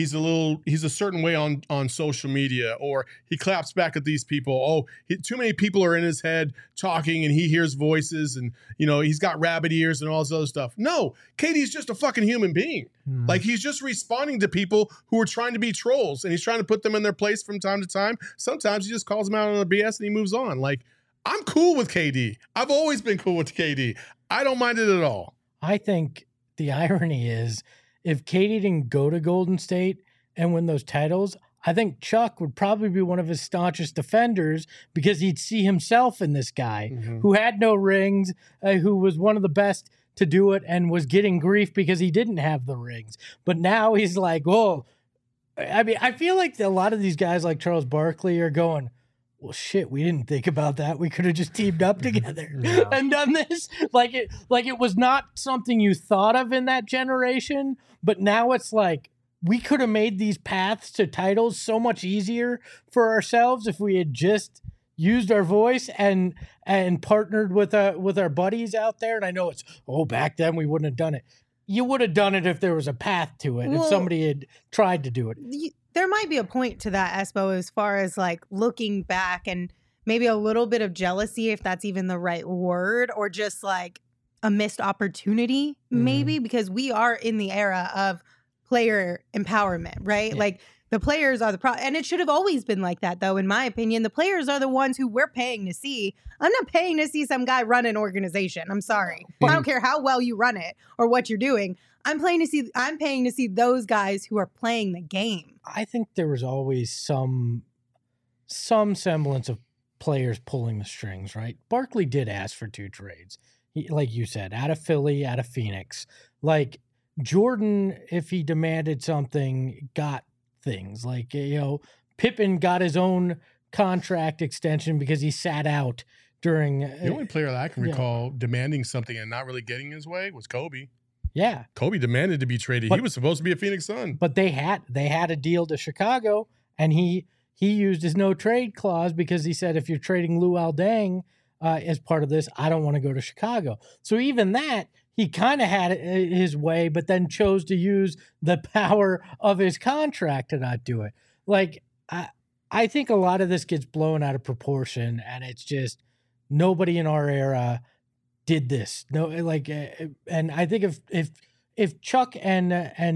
a certain way on social media, or he claps back at these people. Oh, too many people are in his head talking and he hears voices and, he's got rabbit ears and all this other stuff. No, KD's just a fucking human being. Like, he's just responding to people who are trying to be trolls, and he's trying to put them in their place from time to time. Sometimes he just calls them out on the BS and he moves on. Like, I'm cool with KD. I've always been cool with KD. I don't mind it at all. I think the irony is, if KD didn't go to Golden State and win those titles, I think Chuck would probably be one of his staunchest defenders, because he'd see himself in this guy who had no rings, who was one of the best to do it and was getting grief because he didn't have the rings. But now he's like, oh, I mean, I feel like a lot of these guys like Charles Barkley are going, well, shit, we didn't think about that. We could have just teamed up together and done this. Like it was not something you thought of in that generation, but now it's like, we could have made these paths to titles so much easier for ourselves if we had just used our voice and partnered with our buddies out there. And I know back then we wouldn't have done it. You would have done it if there was a path to it, if somebody had tried to do it. There might be a point to that, Espo, as far as like looking back and maybe a little bit of jealousy, if that's even the right word, or just like a missed opportunity, maybe, because we are in the era of player empowerment, right? Yeah. Like, the players are the problem. And it should have always been like that, though, in my opinion. The players are the ones who we're paying to see. I'm not paying to see some guy run an organization. I'm sorry. I don't care how well you run it or what you're doing. I'm paying to see those guys who are playing the game. I think there was always some semblance of players pulling the strings, right? Barkley did ask for 2 trades. Like you said, out of Philly, out of Phoenix. Like, Jordan, if he demanded something, got things. Like, Pippen got his own contract extension because he sat out during. The only player that I can recall demanding something and not really getting his way was Kobe. Yeah, Kobe demanded to be traded. He was supposed to be a Phoenix Sun, but they had a deal to Chicago, and he used his no trade clause because he said, if you're trading Luol Deng as part of this, I don't want to go to Chicago. So even that, he kind of had his way, but then chose to use the power of his contract to not do it. Like, I think a lot of this gets blown out of proportion, and it's just nobody in our era did this. No, like, and I think if Chuck and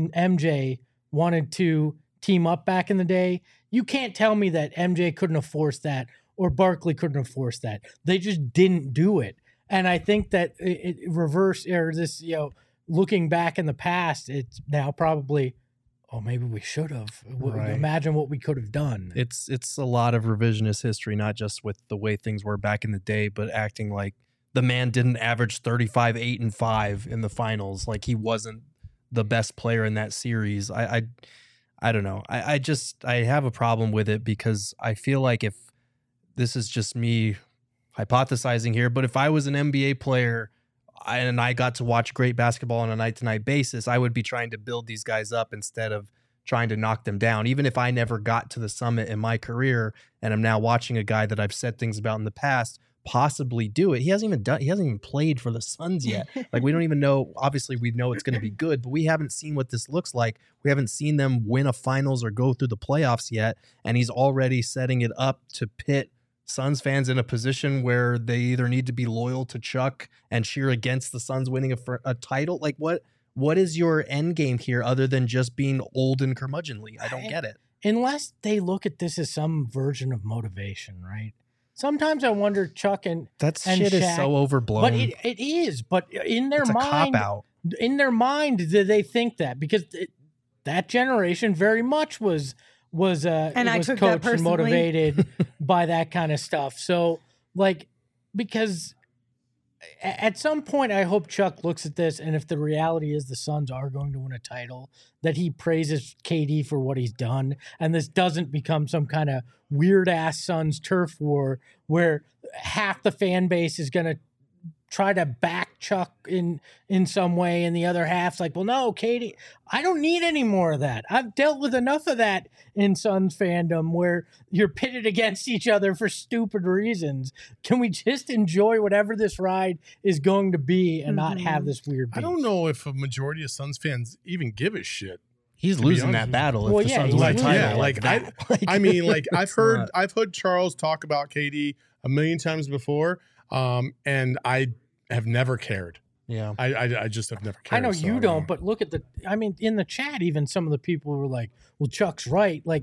MJ wanted to team up back in the day, you can't tell me that MJ couldn't have forced that or Barkley couldn't have forced that. They just didn't do it. And I think that it reverse, or this, looking back in the past, it's now probably, maybe we should have. Right. Imagine what we could have done. It's a lot of revisionist history, not just with the way things were back in the day, but acting like the man didn't average 35, 8, and 5 in the finals. Like, he wasn't the best player in that series. I don't know. I have a problem with it, because I feel like, if this is just me hypothesizing here, but if I was an NBA player and I got to watch great basketball on a night-to-night basis, I would be trying to build these guys up instead of trying to knock them down. Even if I never got to the summit in my career, and I'm now watching a guy that I've said things about in the past possibly do it. He hasn't even played for the Suns yet. Like, we don't even know. Obviously, we know it's going to be good, but we haven't seen what this looks like. We haven't seen them win a finals or go through the playoffs yet, and he's already setting it up to pit Suns fans in a position where they either need to be loyal to Chuck and cheer against the Suns winning a title. Like, what is your end game here other than just being old and curmudgeonly? I don't get it. Unless they look at this as some version of motivation, right? Sometimes I wonder, Chuck and shit Shaq, is so overblown. But it is. But in their mind, do they think that? Because that generation very much was coached and motivated by that kind of stuff. So, like, because at some point, I hope Chuck looks at this, and if the reality is the Suns are going to win a title, that he praises KD for what he's done, and this doesn't become some kind of weird-ass Suns turf war where half the fan base is going to try to back Chuck in some way, and the other half's like, well, no, Katie, I don't need any more of that. I've dealt with enough of that in Suns fandom where you're pitted against each other for stupid reasons. Can we just enjoy whatever this ride is going to be and not have this weird beef? I don't know if a majority of Suns fans even give a shit. He's losing that battle if Well, the yeah, Suns he's win the losing. title. I mean, like I've heard not- Charles talk about KD a million times before, and I have never cared. Yeah. I just have never cared. I know so you I don't, but look at in the chat, even some of the people were like, well, Chuck's right. Like,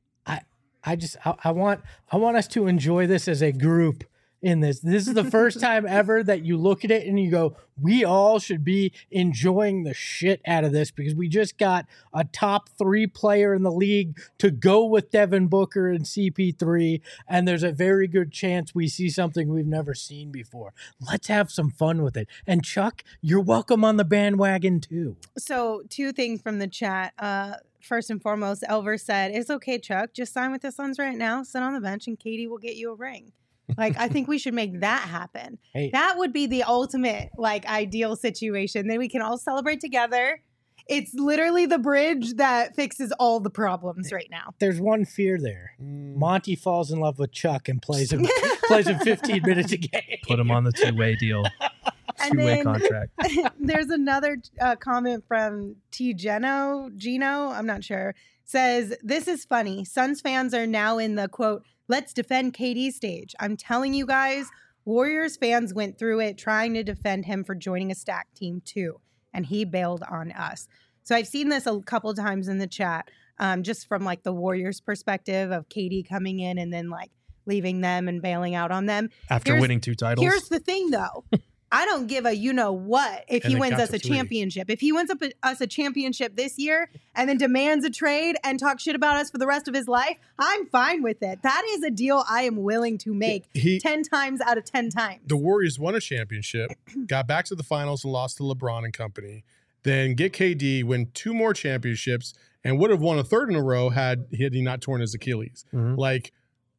I want us to enjoy this as a group in this. This is the first time ever that you look at it and you go, we all should be enjoying the shit out of this because we just got a top 3 player in the league to go with Devin Booker and CP3. And there's a very good chance we see something we've never seen before. Let's have some fun with it. And Chuck, you're welcome on the bandwagon too. So 2 things from the chat. First and foremost, Elver said, it's okay, Chuck. Just sign with the Suns right now. Sit on the bench and Katie will get you a ring. Like, I think we should make that happen. Hey. That would be the ultimate, like, ideal situation. Then we can all celebrate together. It's literally the bridge that fixes all the problems right now. There's one fear there. Monty falls in love with Chuck and plays him 15 minutes a game. Put him on the 2-way deal. And 2-way then contract. there's another comment from Gino, I'm not sure, says, this is funny. Suns fans are now in the, quote, let's defend KD stage. I'm telling you guys, Warriors fans went through it trying to defend him for joining a stacked team too, and he bailed on us. So I've seen this a couple times in the chat, just from like the Warriors perspective of KD coming in and then like leaving them and bailing out on them. After winning 2 titles. Here's the thing though. I don't give a you-know-what if And he it wins got us to a 3. championship. If he wins us a championship this year and then demands a trade and talks shit about us for the rest of his life, I'm fine with it. That is a deal I am willing to make 10 times out of 10 times. The Warriors won a championship, got back to the finals and lost to LeBron and company. Then get KD, win 2 more championships, and would have won a 3rd in a row had he not torn his Achilles. Mhm. Like,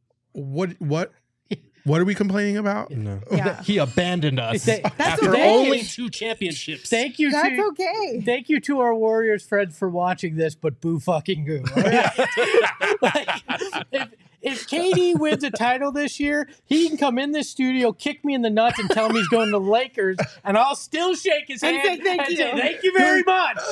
what are we complaining about? No. Yeah. He abandoned us That's after okay. only 2 championships. Thank you. That's okay. Thank you to our Warriors friends for watching this, but boo fucking goo. All right? Like, if KD wins a title this year, he can come in this studio, kick me in the nuts, and tell me he's going to the Lakers, and I'll still shake his And hand say thank and you. say thank you very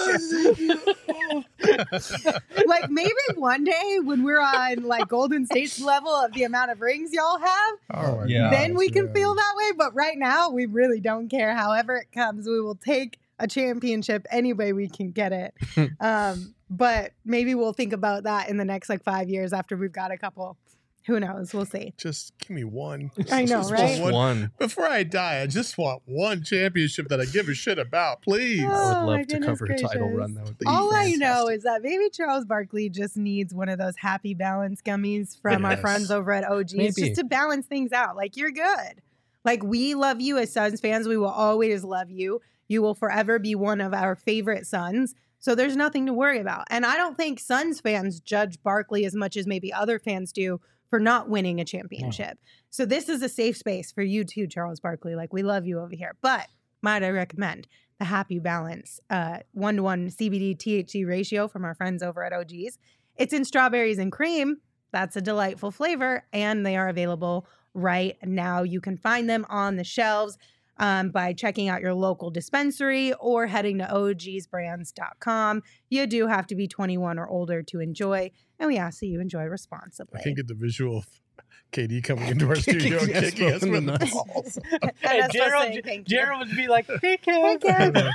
much. Like maybe one day when we're on like Golden State's level of the amount of rings y'all have, Oh, Yeah. then we can feel that way. But right now, we really don't care. However it comes, we will take a championship any way we can get it. But maybe we'll think about that in the next like 5 years after we've got a couple. Who knows? We'll see. Just give me one. I know, Just right? want One. Before I die, I just want one championship that I give a shit about, please. I Oh, would my love to goodness cover a title gracious. run. That would be All I know fantastic. is that maybe Charles Barkley just needs one of those happy balance gummies from our Yes. friends over at OGs Maybe. just to balance things out. Like, you're good. Like, we love you as Suns fans. We will always love you. You will forever be one of our favorite Suns. So there's nothing to worry about. And I don't think Suns fans judge Barkley as much as maybe other fans do for not winning a championship. So this is a safe space for you too, Charles Barkley. Like, we love you over here. But might I recommend the Happy Balance 1-to-1 CBD THC ratio from our friends over at OGs. It's in strawberries and cream. That's a delightful flavor. And they are available right now. You can find them on the shelves by checking out your local dispensary or heading to ogsbrands.com. You do have to be 21 or older to enjoy, and we ask that you enjoy responsibly. I can get the visual of KD coming into our studio and Kicking us kicking us in the with the nuts. balls. And And that's us saying thank you. Gerald would be like, hey, Kev. Hey, Kev.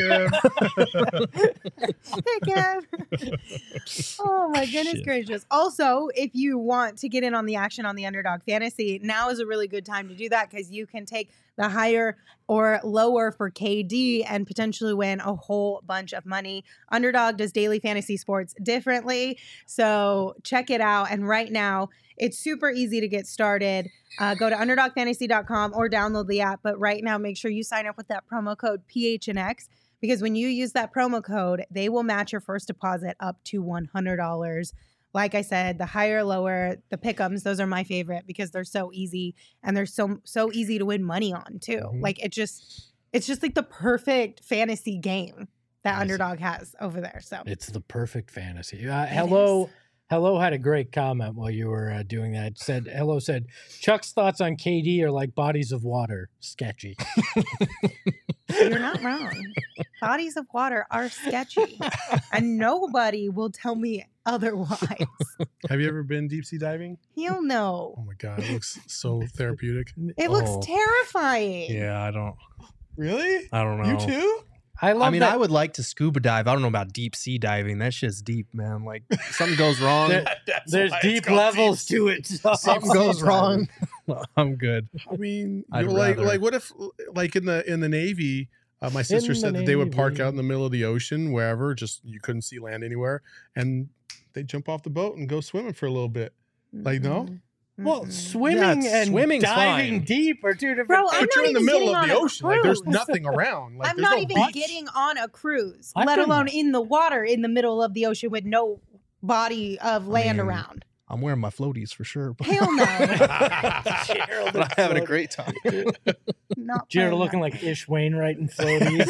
Okay. Hey, Kev. Oh, my goodness Shit. gracious. Also, if you want to get in on the action on the Underdog Fantasy, now is a really good time to do that because you can take the higher or lower for KD and potentially win a whole bunch of money. Underdog does daily fantasy sports differently. So check it out. And right now, it's super easy to get started. Go to underdogfantasy.com or download the app. But right now, make sure you sign up with that promo code PHNX because when you use that promo code, they will match your first deposit up to $100. like I said, the higher, lower, the pick'ems, those are my favorite because they're so easy and they're so easy to win money on too. Mhm. Like it's just like the perfect fantasy game that Nice. Underdog has over there. So It's the perfect fantasy. is. Hello had a great comment while you were doing that. Hello said, Chuck's thoughts on KD are like bodies of water. Sketchy. you're not wrong. Bodies of water are sketchy and nobody will tell me otherwise. Have you ever been deep sea diving? He'll know. Oh my God, it looks so therapeutic. It looks Oh. terrifying. Yeah, I don't know. You too? I love I mean, that. I would like to scuba dive. I don't know about deep sea diving. That shit's deep, man. Like something goes wrong. There's deep levels to it. something goes wrong. I'm good. I mean, I'd like rather- what if like in the Navy, my sister In the said that they would park Navy. out in the middle of the ocean, wherever, just you couldn't see land anywhere, and they jump off the boat and go swimming for a little bit. Like, no? Mhm. Well, Mhm. swimming Yeah, and swimming's diving fine. deep are two different Bro, things. I'm But you're not in the even middle getting of on the a ocean. Like, there's cruise. nothing around. Like, I'm there's not no even beach. getting on a cruise, I've let done alone that. in the water in the middle of the ocean with no body of land mean, around. I'm wearing my floaties for sure. but Hell no. Gerald I'm having a great time. Not Jared playing looking that. like Ish Wainwright and floaties.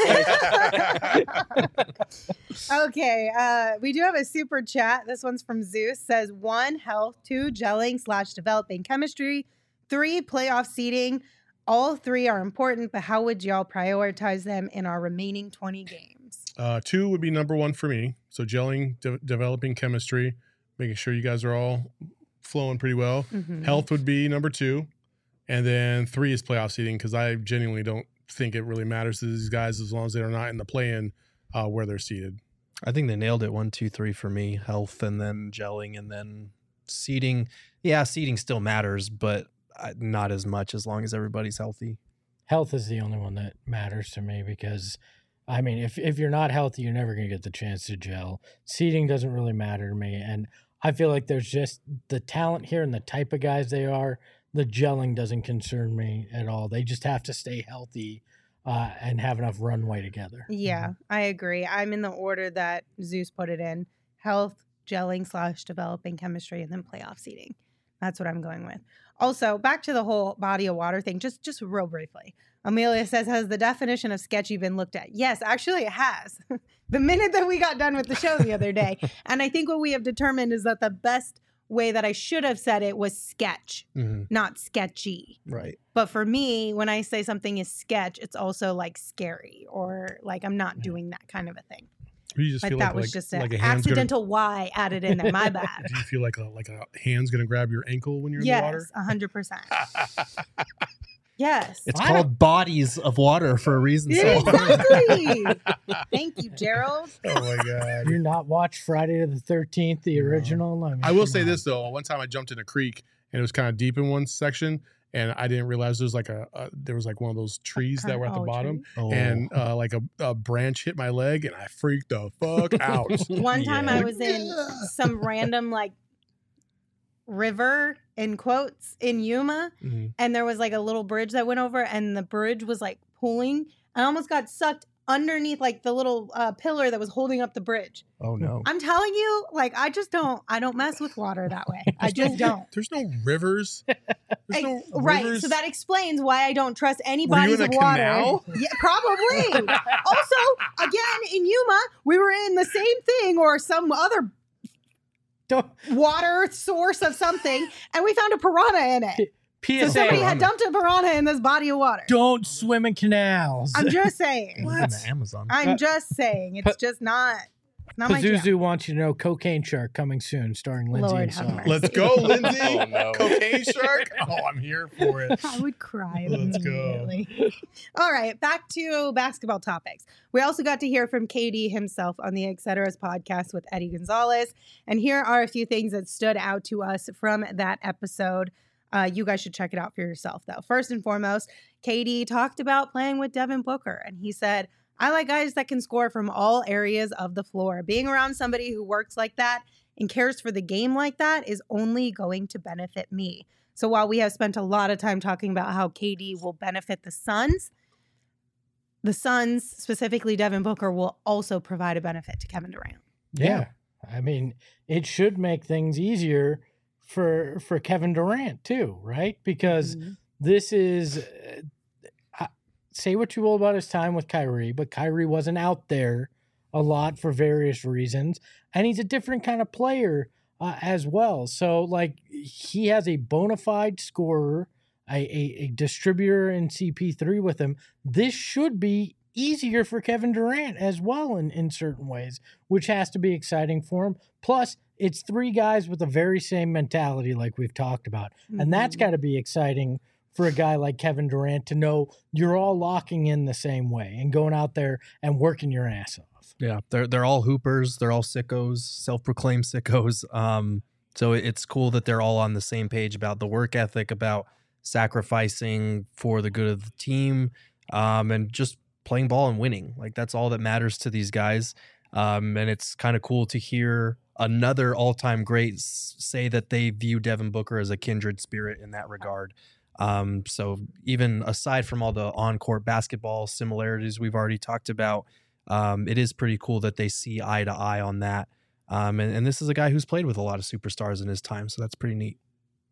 Okay, we do have a super chat. This one's from Zeus. Says 1, health, 2, gelling/developing chemistry, 3, playoff seeding. All 3 are important, but how would y'all prioritize them in our remaining 20 games? 2 would be number 1 for me. So gelling, developing chemistry, making sure you guys are all flowing pretty well. Mhm. Health would be number 2, and then 3 is playoff seeding, because I genuinely don't think it really matters to these guys as long as they're not in the play-in where they're seated. I think they nailed it. 1, 2, 3 for me. Health and then gelling and then seeding. Yeah, seeding still matters, but not as much as long as everybody's healthy. Health is the only one that matters to me because, I mean, if you're not healthy, you're never going to get the chance to gel. Seeding doesn't really matter to me. And I feel like there's just the talent here and the type of guys they are. The gelling doesn't concern me at all. They just have to stay healthy and have enough runway together. Yeah, I agree. I'm in the order that Zeus put it in: health, gelling/developing chemistry, and then playoff seeding. That's what I'm going with. Also, back to the whole body of water thing, just real briefly. Amelia says, has the definition of sketchy been looked at? Yes, actually it has. The minute that we got done with the show the other day. And I think what we have determined is that the best way that I should have said it was sketch, not sketchy. Right. But for me, when I say something is sketch, it's also like scary or like I'm not doing that kind of a thing. You just But feel that like, was just like an a hand's accidental Y added in there. My bad. Do you feel like a hand's gonna grab your ankle when you're in the water? Yes, 100%. Yes. It's I called bodies of water for a reason. Yeah, So. exactly. Thank you, Gerald. Oh my god! You not watch Friday the 13th, the original? I, mean, I will come say on. this though. One time I jumped in a creek and it was kind of deep in one section, and I didn't realize there was like there was like one of those trees that were at the bottom, Oh. and like a branch hit my leg, and I freaked the fuck out. One time Yeah. I was in some random like river in quotes in Yuma, Mhm. and there was like a little bridge that went over, and the bridge was like pulling. I almost got sucked underneath like the little pillar that was holding up the bridge. Oh no. I'm telling you, like I don't mess with water that way. I just don't. There's no rivers. There's no Right. rivers. So that explains why I don't trust any Were you bodies in of a water. canal? Yeah, probably. Also, again, in Yuma, we were in the same thing or some other Don't- water source of something, and we found a piranha in it. So PSA, somebody had dumped a piranha in this body of water. don't swim in canals. I'm just saying. In the Amazon. I'm just saying. It's just not. It's not my jam. Pazuzu wants you to know Cocaine Shark coming soon, starring Lindsay Lord and have Song. mercy. Let's go, Lindsay. Oh, no. Cocaine shark. Oh, I'm here for it. I would cry Let's go. immediately. All right, back to basketball topics. We also got to hear from KD himself on the Etceteras podcast with Eddie Gonzalez. And here are a few things that stood out to us from that episode. You guys should check it out for yourself, though. First and foremost, KD talked about playing with Devin Booker, and he said, I like guys that can score from all areas of the floor. Being around somebody who works like that and cares for the game like that is only going to benefit me. So while we have spent a lot of time talking about how KD will benefit the Suns, specifically Devin Booker, will also provide a benefit to Kevin Durant. Yeah, I mean, it should make things easier for Kevin Durant too, right? Because this is say what you will about his time with Kyrie, but Kyrie wasn't out there a lot for various reasons, and he's a different kind of player as well. So, like, he has a bona fide scorer, a distributor in CP3 with him. This should be easier for Kevin Durant as well in certain ways, which has to be exciting for him. Plus, it's three guys with the very same mentality like we've talked about, and that's got to be exciting for a guy like Kevin Durant to know you're all locking in the same way and going out there and working your ass off. Yeah, they're all hoopers. They're all sickos, self-proclaimed sickos. So it's cool that they're all on the same page about the work ethic, about sacrificing for the good of the team, and just playing ball and winning. Like, that's all that matters to these guys. And it's kind of cool to hear another all-time great say that they view Devin Booker as a kindred spirit in that regard. So even aside from all the on-court basketball similarities we've already talked about, it is pretty cool that they see eye to eye on that. And this is a guy who's played with a lot of superstars in his time, so that's pretty neat.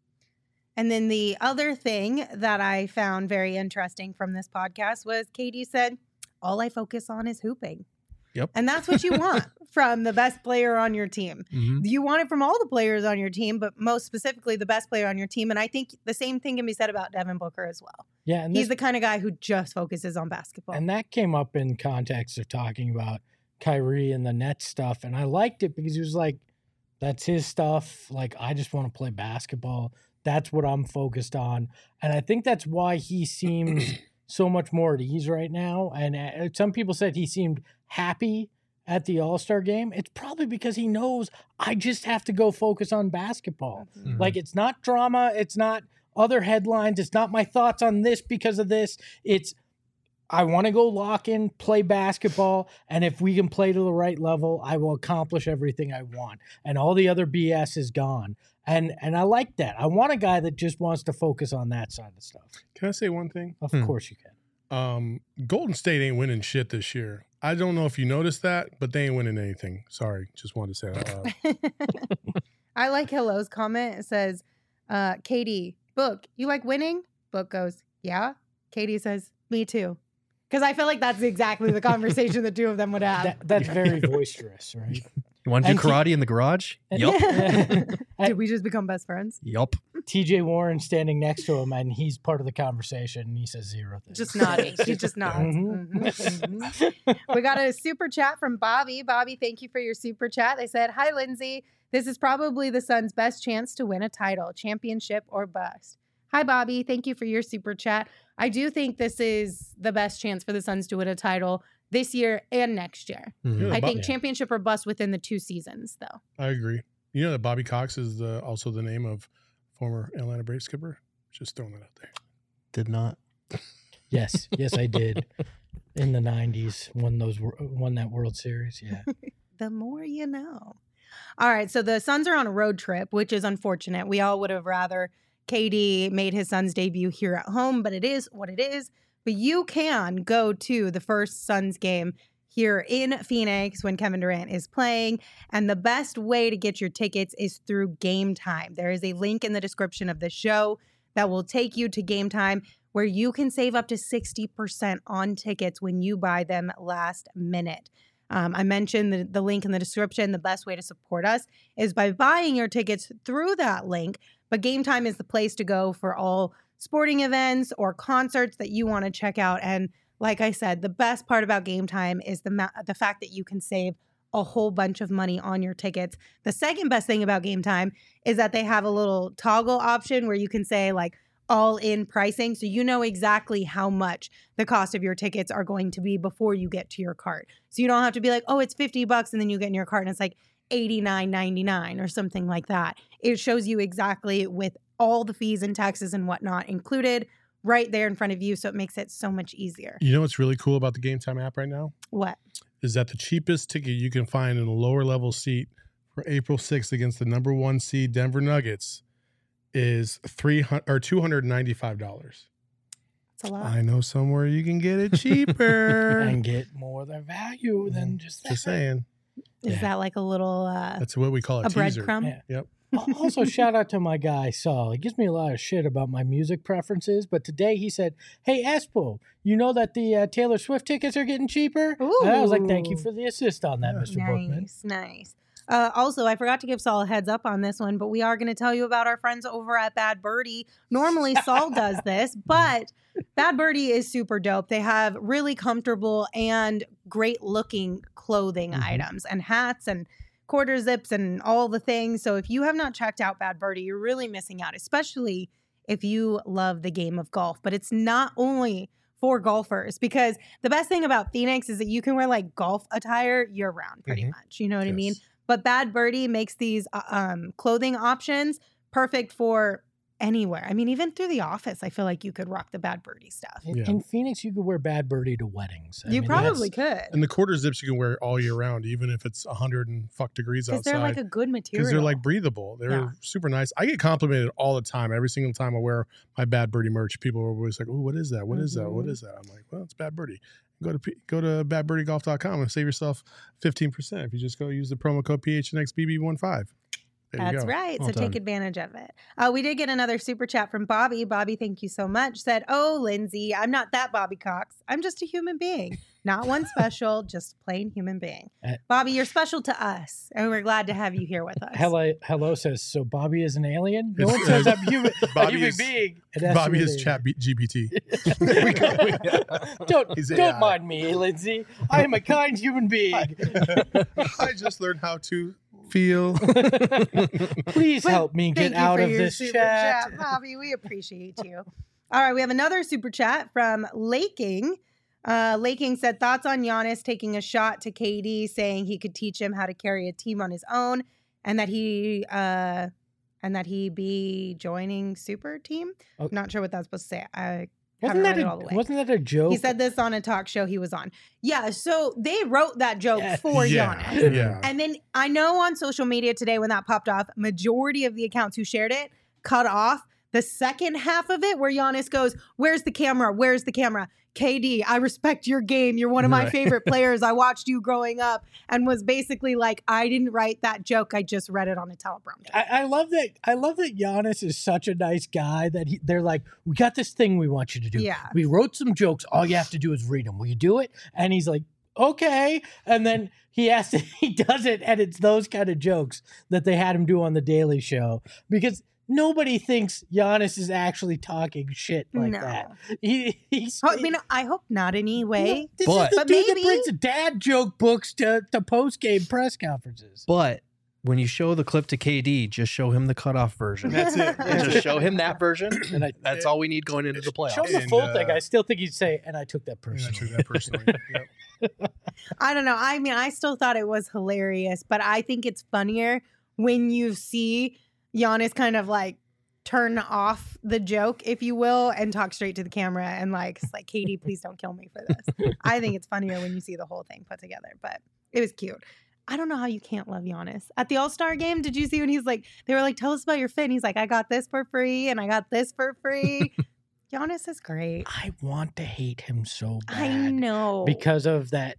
And then the other thing that I found very interesting from this podcast was KD said, all I focus on is hooping. Yep. And that's what you want from the best player on your team. You want it from all the players on your team, but most specifically the best player on your team. And I think the same thing can be said about Devin Booker as well. Yeah, and he's the kind of guy who just focuses on basketball. And that came up in context of talking about Kyrie and the Nets stuff. And I liked it because he was like, that's his stuff. Like, I just want to play basketball. That's what I'm focused on. And I think that's why he seems so much more at ease right now. And some people said he seemed happy at the All-Star game. It's probably because he knows I just have to go focus on basketball. Like, it's not drama. It's not other headlines. It's not my thoughts on this because of this. It's I want to go lock in, play basketball, and if we can play to the right level, I will accomplish everything I want. And all the other BS is gone. And I like that. I want a guy that just wants to focus on that side of stuff. Can I say one thing? Of course you can. Golden State ain't winning shit this year. I don't know if you noticed that, but they ain't winning anything. Sorry. Just wanted to say that. I like Hello's comment. It says, Katie, Book, you like winning? Book goes, yeah. Katie says, me too. Because I feel like that's exactly the conversation the two of them would have. That's very boisterous, right? You want to do karate in the garage? Yup. Did we just become best friends? Yup. TJ Warren standing next to him, and he's part of the conversation, and he says zero things. Just nodding. He just nods. We got a super chat from Bobby. Bobby, thank you for your super chat. They said, hi, Lindsay. This is probably the Suns' best chance to win a title, championship or bust. Hi, Bobby. Thank you for your super chat. I do think this is the best chance for the Suns to win a title this year and next year. I think championship or bust within the 2 seasons, though. I agree. You know that Bobby Cox is also the name of former Atlanta Braves skipper? Just throwing that out there. Did not. Yes, I did. In the 90s, won that World Series, yeah. The more you know. All right, so the Suns are on a road trip, which is unfortunate. We all would have rather KD made his Suns debut here at home, but it is what it is. But you can go to the first Suns game here in Phoenix when Kevin Durant is playing. And the best way to get your tickets is through Game Time. There is a link in the description of the show that will take you to Game Time where you can save up to 60% on tickets when you buy them last minute. I mentioned the link in the description. The best way to support us is by buying your tickets through that link. But Game Time is the place to go for all sporting events or concerts that you want to check out. And like I said, the best part about Game Time is the fact that you can save a whole bunch of money on your tickets. The second best thing about Game Time is that they have a little toggle option where you can say like all in pricing. So you know exactly how much the cost of your tickets are going to be before you get to your cart. So you don't have to be like, oh, it's $50 and then you get in your cart and it's like $89.99 or something like that. It shows you exactly with all the fees and taxes and whatnot included right there in front of you. So it makes it so much easier. You know what's really cool about the Game Time app right now? What? Is that the cheapest ticket you can find in a lower level seat for April 6th against the number 1 seed Denver Nuggets is $295. That's a lot. I know somewhere you can get it cheaper. And get more of the value than just that. Just saying. Is that like a little That's what we call a teaser. breadcrumb? Yeah. Yep. Also, shout out to my guy, Saul. He gives me a lot of shit about my music preferences, but today he said, "Hey, Espo, you know that the Taylor Swift tickets are getting cheaper?" Ooh. And I was like, thank you for the assist on that, Mr. Bookman. Nice. Also, I forgot to give Saul a heads up on this one, but we are going to tell you about our friends over at Bad Birdie. Normally, Saul does this, but Bad Birdie is super dope. They have really comfortable and great looking clothing items and hats and quarter zips and all the things. So if you have not checked out Bad Birdie, you're really missing out, especially if you love the game of golf. But it's not only for golfers, because the best thing about Phoenix is that you can wear like golf attire year round pretty much. You know what I mean? But Bad Birdie makes these clothing options perfect for anywhere. I mean, even through the office, I feel like you could rock the Bad Birdie stuff. In Phoenix, you could wear Bad Birdie to weddings. You probably could. And the quarter zips you can wear all year round, even if it's 100 and fuck degrees outside. Because they're like a good material. Because they're like breathable. They're super nice. I get complimented all the time. Every single time I wear my Bad Birdie merch, people are always like, "Oh, what is that? What is that? What is that?" I'm like, "Well, it's Bad Birdie." Go to badbirdiegolf.com and save yourself 15% if you just go use the promo code PHNXBB15. That's right. So take advantage of it. We did get another super chat from Bobby. Bobby, thank you so much. Said, "Oh, Lindsay, I'm not that Bobby Cox. I'm just a human being. Not one special, just plain human being." Bobby, you're special to us, and we're glad to have you here with us. Hello says, so Bobby is an alien? No one says I'm a human being. Bobby is Chat GPT. Don't mind me, Lindsay. I am a kind human being. I just learned how to feel. Please help me get out of this chat. Bobby, we appreciate you. All right, we have another super chat from Laking. Laking said, thoughts on Giannis taking a shot to KD, saying he could teach him how to carry a team on his own, and that he be joining super team. Okay. Not sure what that's supposed to say. Wasn't that a joke? He said this on a talk show he was on. Yeah, so they wrote that joke for Giannis. Yeah. And then I know on social media today when that popped off, majority of the accounts who shared it cut off the second half of it where Giannis goes, "Where's the camera? Where's the camera? KD, I respect your game. You're one of my favorite players. I watched you growing up," and was basically like, "I didn't write that joke. I just read it on a teleprompter." I love that. I love that Giannis is such a nice guy that they're like, "We got this thing we want you to do. Yeah. We wrote some jokes. All you have to do is read them. Will you do it?" And he's like, "Okay." And then he does it, and it's those kind of jokes that they had him do on the Daily Show because nobody thinks Giannis is actually talking shit like that. I hope not anyway. This is the dude maybe that brings dad joke books to post-game press conferences. But when you show the clip to KD, just show him the cutoff version. That's it. Just show him that version, and that's all we need going into the playoffs. Show him the full thing. I still think he'd say, "And I took that personally." Yep. I don't know. I mean, I still thought it was hilarious, but I think it's funnier when you see Giannis kind of like turn off the joke, if you will, and talk straight to the camera and like, it's like, "KD, please don't kill me for this." I think it's funnier when you see the whole thing put together, but it was cute. I don't know how you can't love Giannis. At the All-Star game, did you see when he's like, they were like, "Tell us about your fit." And he's like, "I got this for free and I got this for free." Giannis is great. I want to hate him so bad. I know. Because of that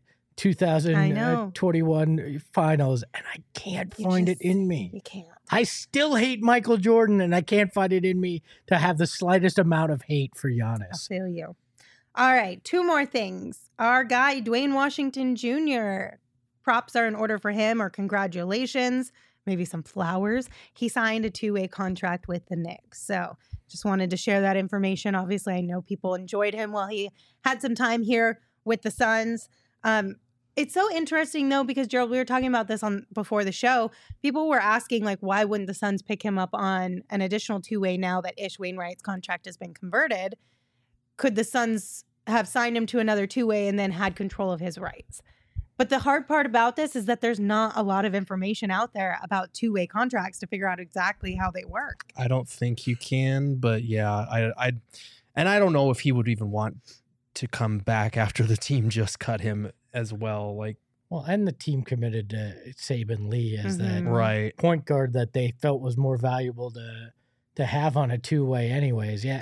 2021 finals, and I can't find it in me. You can't. I still hate Michael Jordan, and I can't find it in me to have the slightest amount of hate for I Giannis. feel you. All right, two more things. Our guy, Dwayne Washington Jr., props are in order for him, or congratulations, maybe some flowers. He signed a 2-way contract with the Knicks. So just wanted to share that information. Obviously, I know people enjoyed him while he had some time here with the Suns. It's so interesting, though, because, Gerald, we were talking about this before the show. People were asking, like, why wouldn't the Suns pick him up on an additional 2-way now that Ish Wainwright's contract has been converted? Could the Suns have signed him to another 2-way and then had control of his rights? But the hard part about this is that there's not a lot of information out there about 2-way contracts to figure out exactly how they work. I don't think you can, but yeah, I don't know if he would even want to come back after the team just cut him as well. Like, well, and the team committed to Saban Lee as that right point guard that they felt was more valuable to have on a 2-way anyways. Yeah.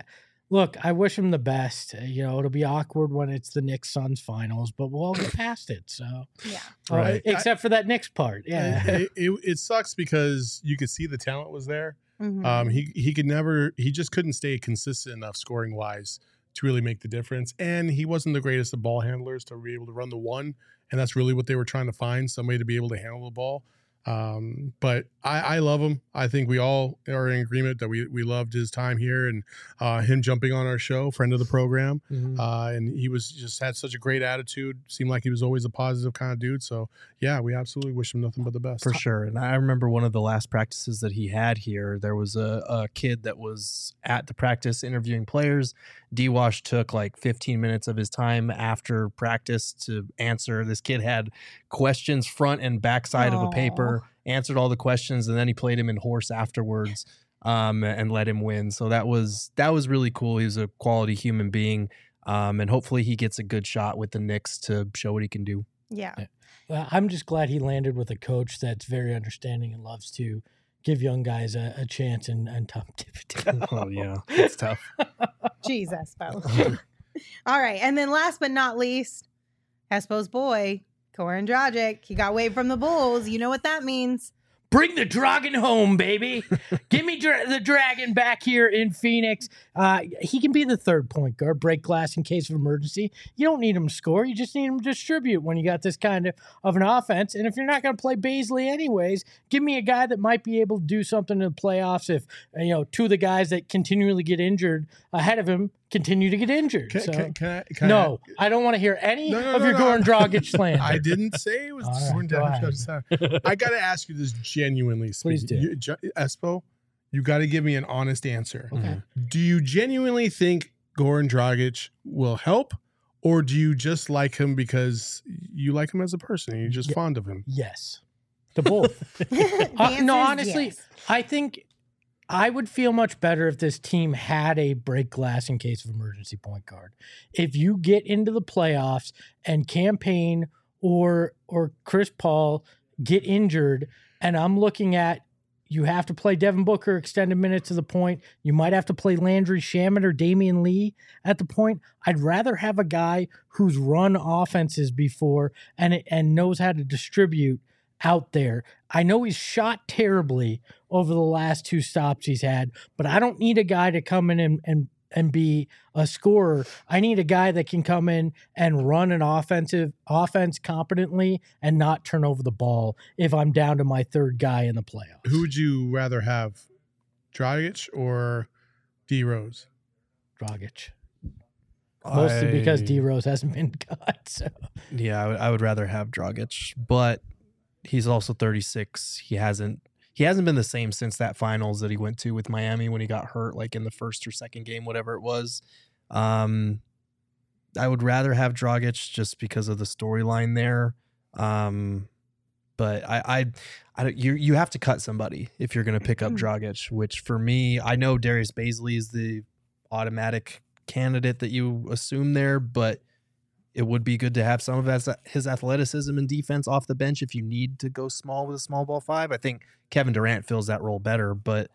Look, I wish him the best. It'll be awkward when it's the Knicks Suns finals, but we'll all get past it. So Yeah. Right. Except for that Knicks part. Yeah. It sucks because you could see the talent was there. Mhm. He just couldn't stay consistent enough scoring wise to really make the difference. And he wasn't the greatest of ball handlers to be able to run the one. And that's really what they were trying to find, somebody to be able to handle the ball. But I love him. I think we all are in agreement that we loved his time here and him jumping on our show, friend of the program. And he was just had such a great attitude. Seemed like he was always a positive kind of dude. So yeah, we absolutely wish him nothing but the best. For sure. And I remember one of the last practices that he had here, there was a kid that was at the practice interviewing players. D-Wash took like 15 minutes of his time after practice to answer. This kid had questions front and backside of a paper, answered all the questions, and then he played him in horse afterwards and let him win. So that was really cool. He was a quality human being. And hopefully he gets a good shot with the Knicks to show what he can do. Yeah. I'm just glad he landed with a coach that's very understanding and loves to give young guys a chance and tough. Oh, yeah. It's tough. Jeez, Espo. All right. And then last but not least, Espo's boy, Goran Dragic. He got waived from the Bulls. You know what that means. Bring the dragon home, baby. Give me the dragon back here in Phoenix. He can be the third point guard, break glass in case of emergency. You don't need him to score. You just need him to distribute when you got this kind of an offense. And if you're not going to play Baisley anyways, give me a guy that might be able to do something in the playoffs if, two of the guys that continually get injured ahead of him continue to get injured. I don't want to hear any of your Goran Dragic slander. I didn't say it was Goran Dragic. I got to ask you this genuinely. Please do. Espo, you got to give me an honest answer. Okay. Do you genuinely think Goran Dragic will help, or do you just like him because you like him as a person and you're just fond of him? Yes. To both. Honestly, yes. I think I would feel much better if this team had a break glass in case of emergency point guard. If you get into the playoffs and Campaign or Chris Paul get injured, and I'm looking at you have to play Devin Booker extended minutes to the point, you might have to play Landry Shamet or Damian Lee at the point. I'd rather have a guy who's run offenses before and knows how to distribute out there. I know he's shot terribly over the last two stops he's had, but I don't need a guy to come in and be a scorer. I need a guy that can come in and run an offense competently and not turn over the ball if I'm down to my third guy in the playoffs. Who would you rather have, Dragic or D Rose? Dragic. Mostly because D Rose hasn't been cut. So. Yeah, I would rather have Dragic, but he's also 36. He hasn't been the same since that finals that he went to with Miami when he got hurt, like in the first or second game, whatever it was. I would rather have Dragic just because of the storyline there. But you have to cut somebody if you're going to pick up Dragic, which for me, I know Darius Baisley is the automatic candidate that you assume there, but it would be good to have some of his athleticism and defense off the bench if you need to go small with a small ball five. I think Kevin Durant fills that role better, but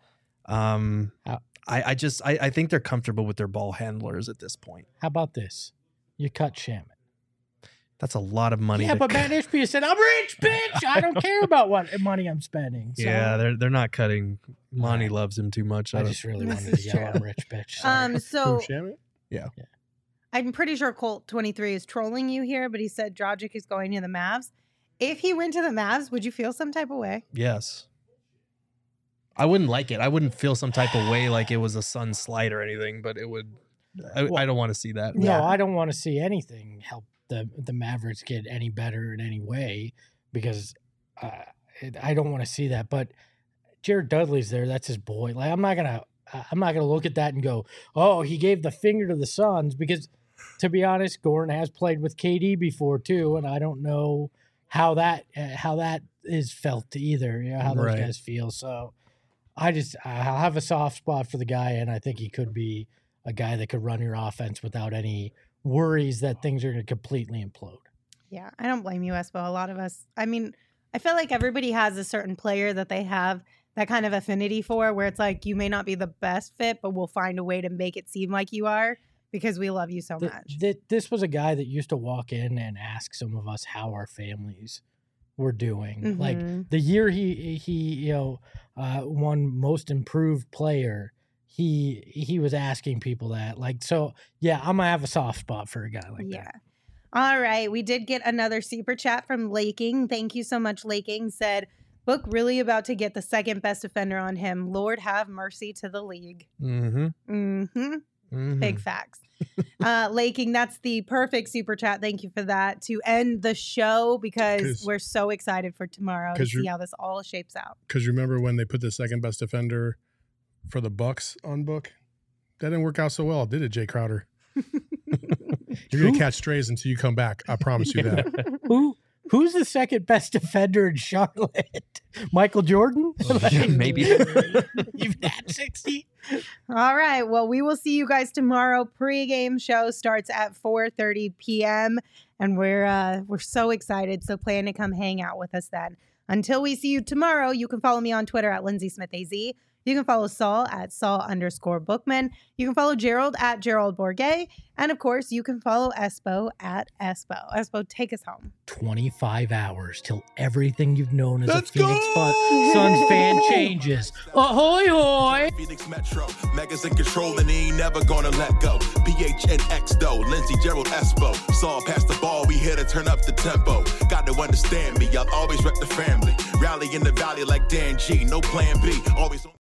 I think they're comfortable with their ball handlers at this point. How about this? You cut Shamet. That's a lot of money. Yeah, but Matt Ishbia said, "I'm rich, bitch. I don't care about what money I'm spending." So. Yeah, they're not cutting. Monty loves him too much. I just really wanted to yell, "I'm rich, bitch." So Shamet? Yeah. I'm pretty sure Colt 23 is trolling you here, but he said Dragic is going to the Mavs. If he went to the Mavs, would you feel some type of way? Yes. I wouldn't like it. I wouldn't feel some type of way like it was a Sun slide or anything, but it would. I don't want to see that. No, I don't want to see anything help the Mavericks get any better in any way because I don't want to see that. But Jared Dudley's there. That's his boy. Like I'm not gonna look at that and go, oh, he gave the finger to the Suns because. To be honest, Goran has played with KD before too, and I don't know how that is felt either. You know, how those guys feel. So I'll have a soft spot for the guy, and I think he could be a guy that could run your offense without any worries that things are going to completely implode. Yeah, I don't blame you, Espo. A lot of us. I mean, I feel like everybody has a certain player that they have that kind of affinity for, where it's like you may not be the best fit, but we'll find a way to make it seem like you are because we love you so much. This was a guy that used to walk in and ask some of us how our families were doing. Mhm. Like the year he won most improved player, he was asking people that. Like, so yeah, I'm gonna have a soft spot for a guy like that. All right. We did get another super chat from Laking. Thank you so much, Laking. Said, Book really about to get the second best defender on him. Lord have mercy to the league. Big facts. Laking, that's the perfect super chat. Thank you for that to end the show because we're so excited for tomorrow to see how this all shapes out. Because remember when they put the second best defender for the Bucks on Book? That didn't work out so well, did it, Jay Crowder? You're going to catch strays until you come back. I promise you that. Who's the second best defender in Charlotte? Michael Jordan? Maybe. You've had 60? All right. Well, we will see you guys tomorrow. Pre-game show starts at 4:30 p.m. And we're so excited. So plan to come hang out with us then. Until we see you tomorrow, you can follow me on Twitter at LindsaySmithAZ. You can follow Saul at Saul_Bookman. You can follow Gerald at Gerald Bourget. And of course, you can follow Espo at Espo. Espo, take us home. 25 hours till everything you've known as a Phoenix Suns fan changes. Ahoy, hoy! Phoenix Metro, Megas in control and he ain't never gonna let go. PHNX though, Lindsay, Gerald, Espo. Saul pass the ball, we here to turn up the tempo. Got to understand me, I'll always rep the family. Rally in the valley like Dan G, no plan B. Always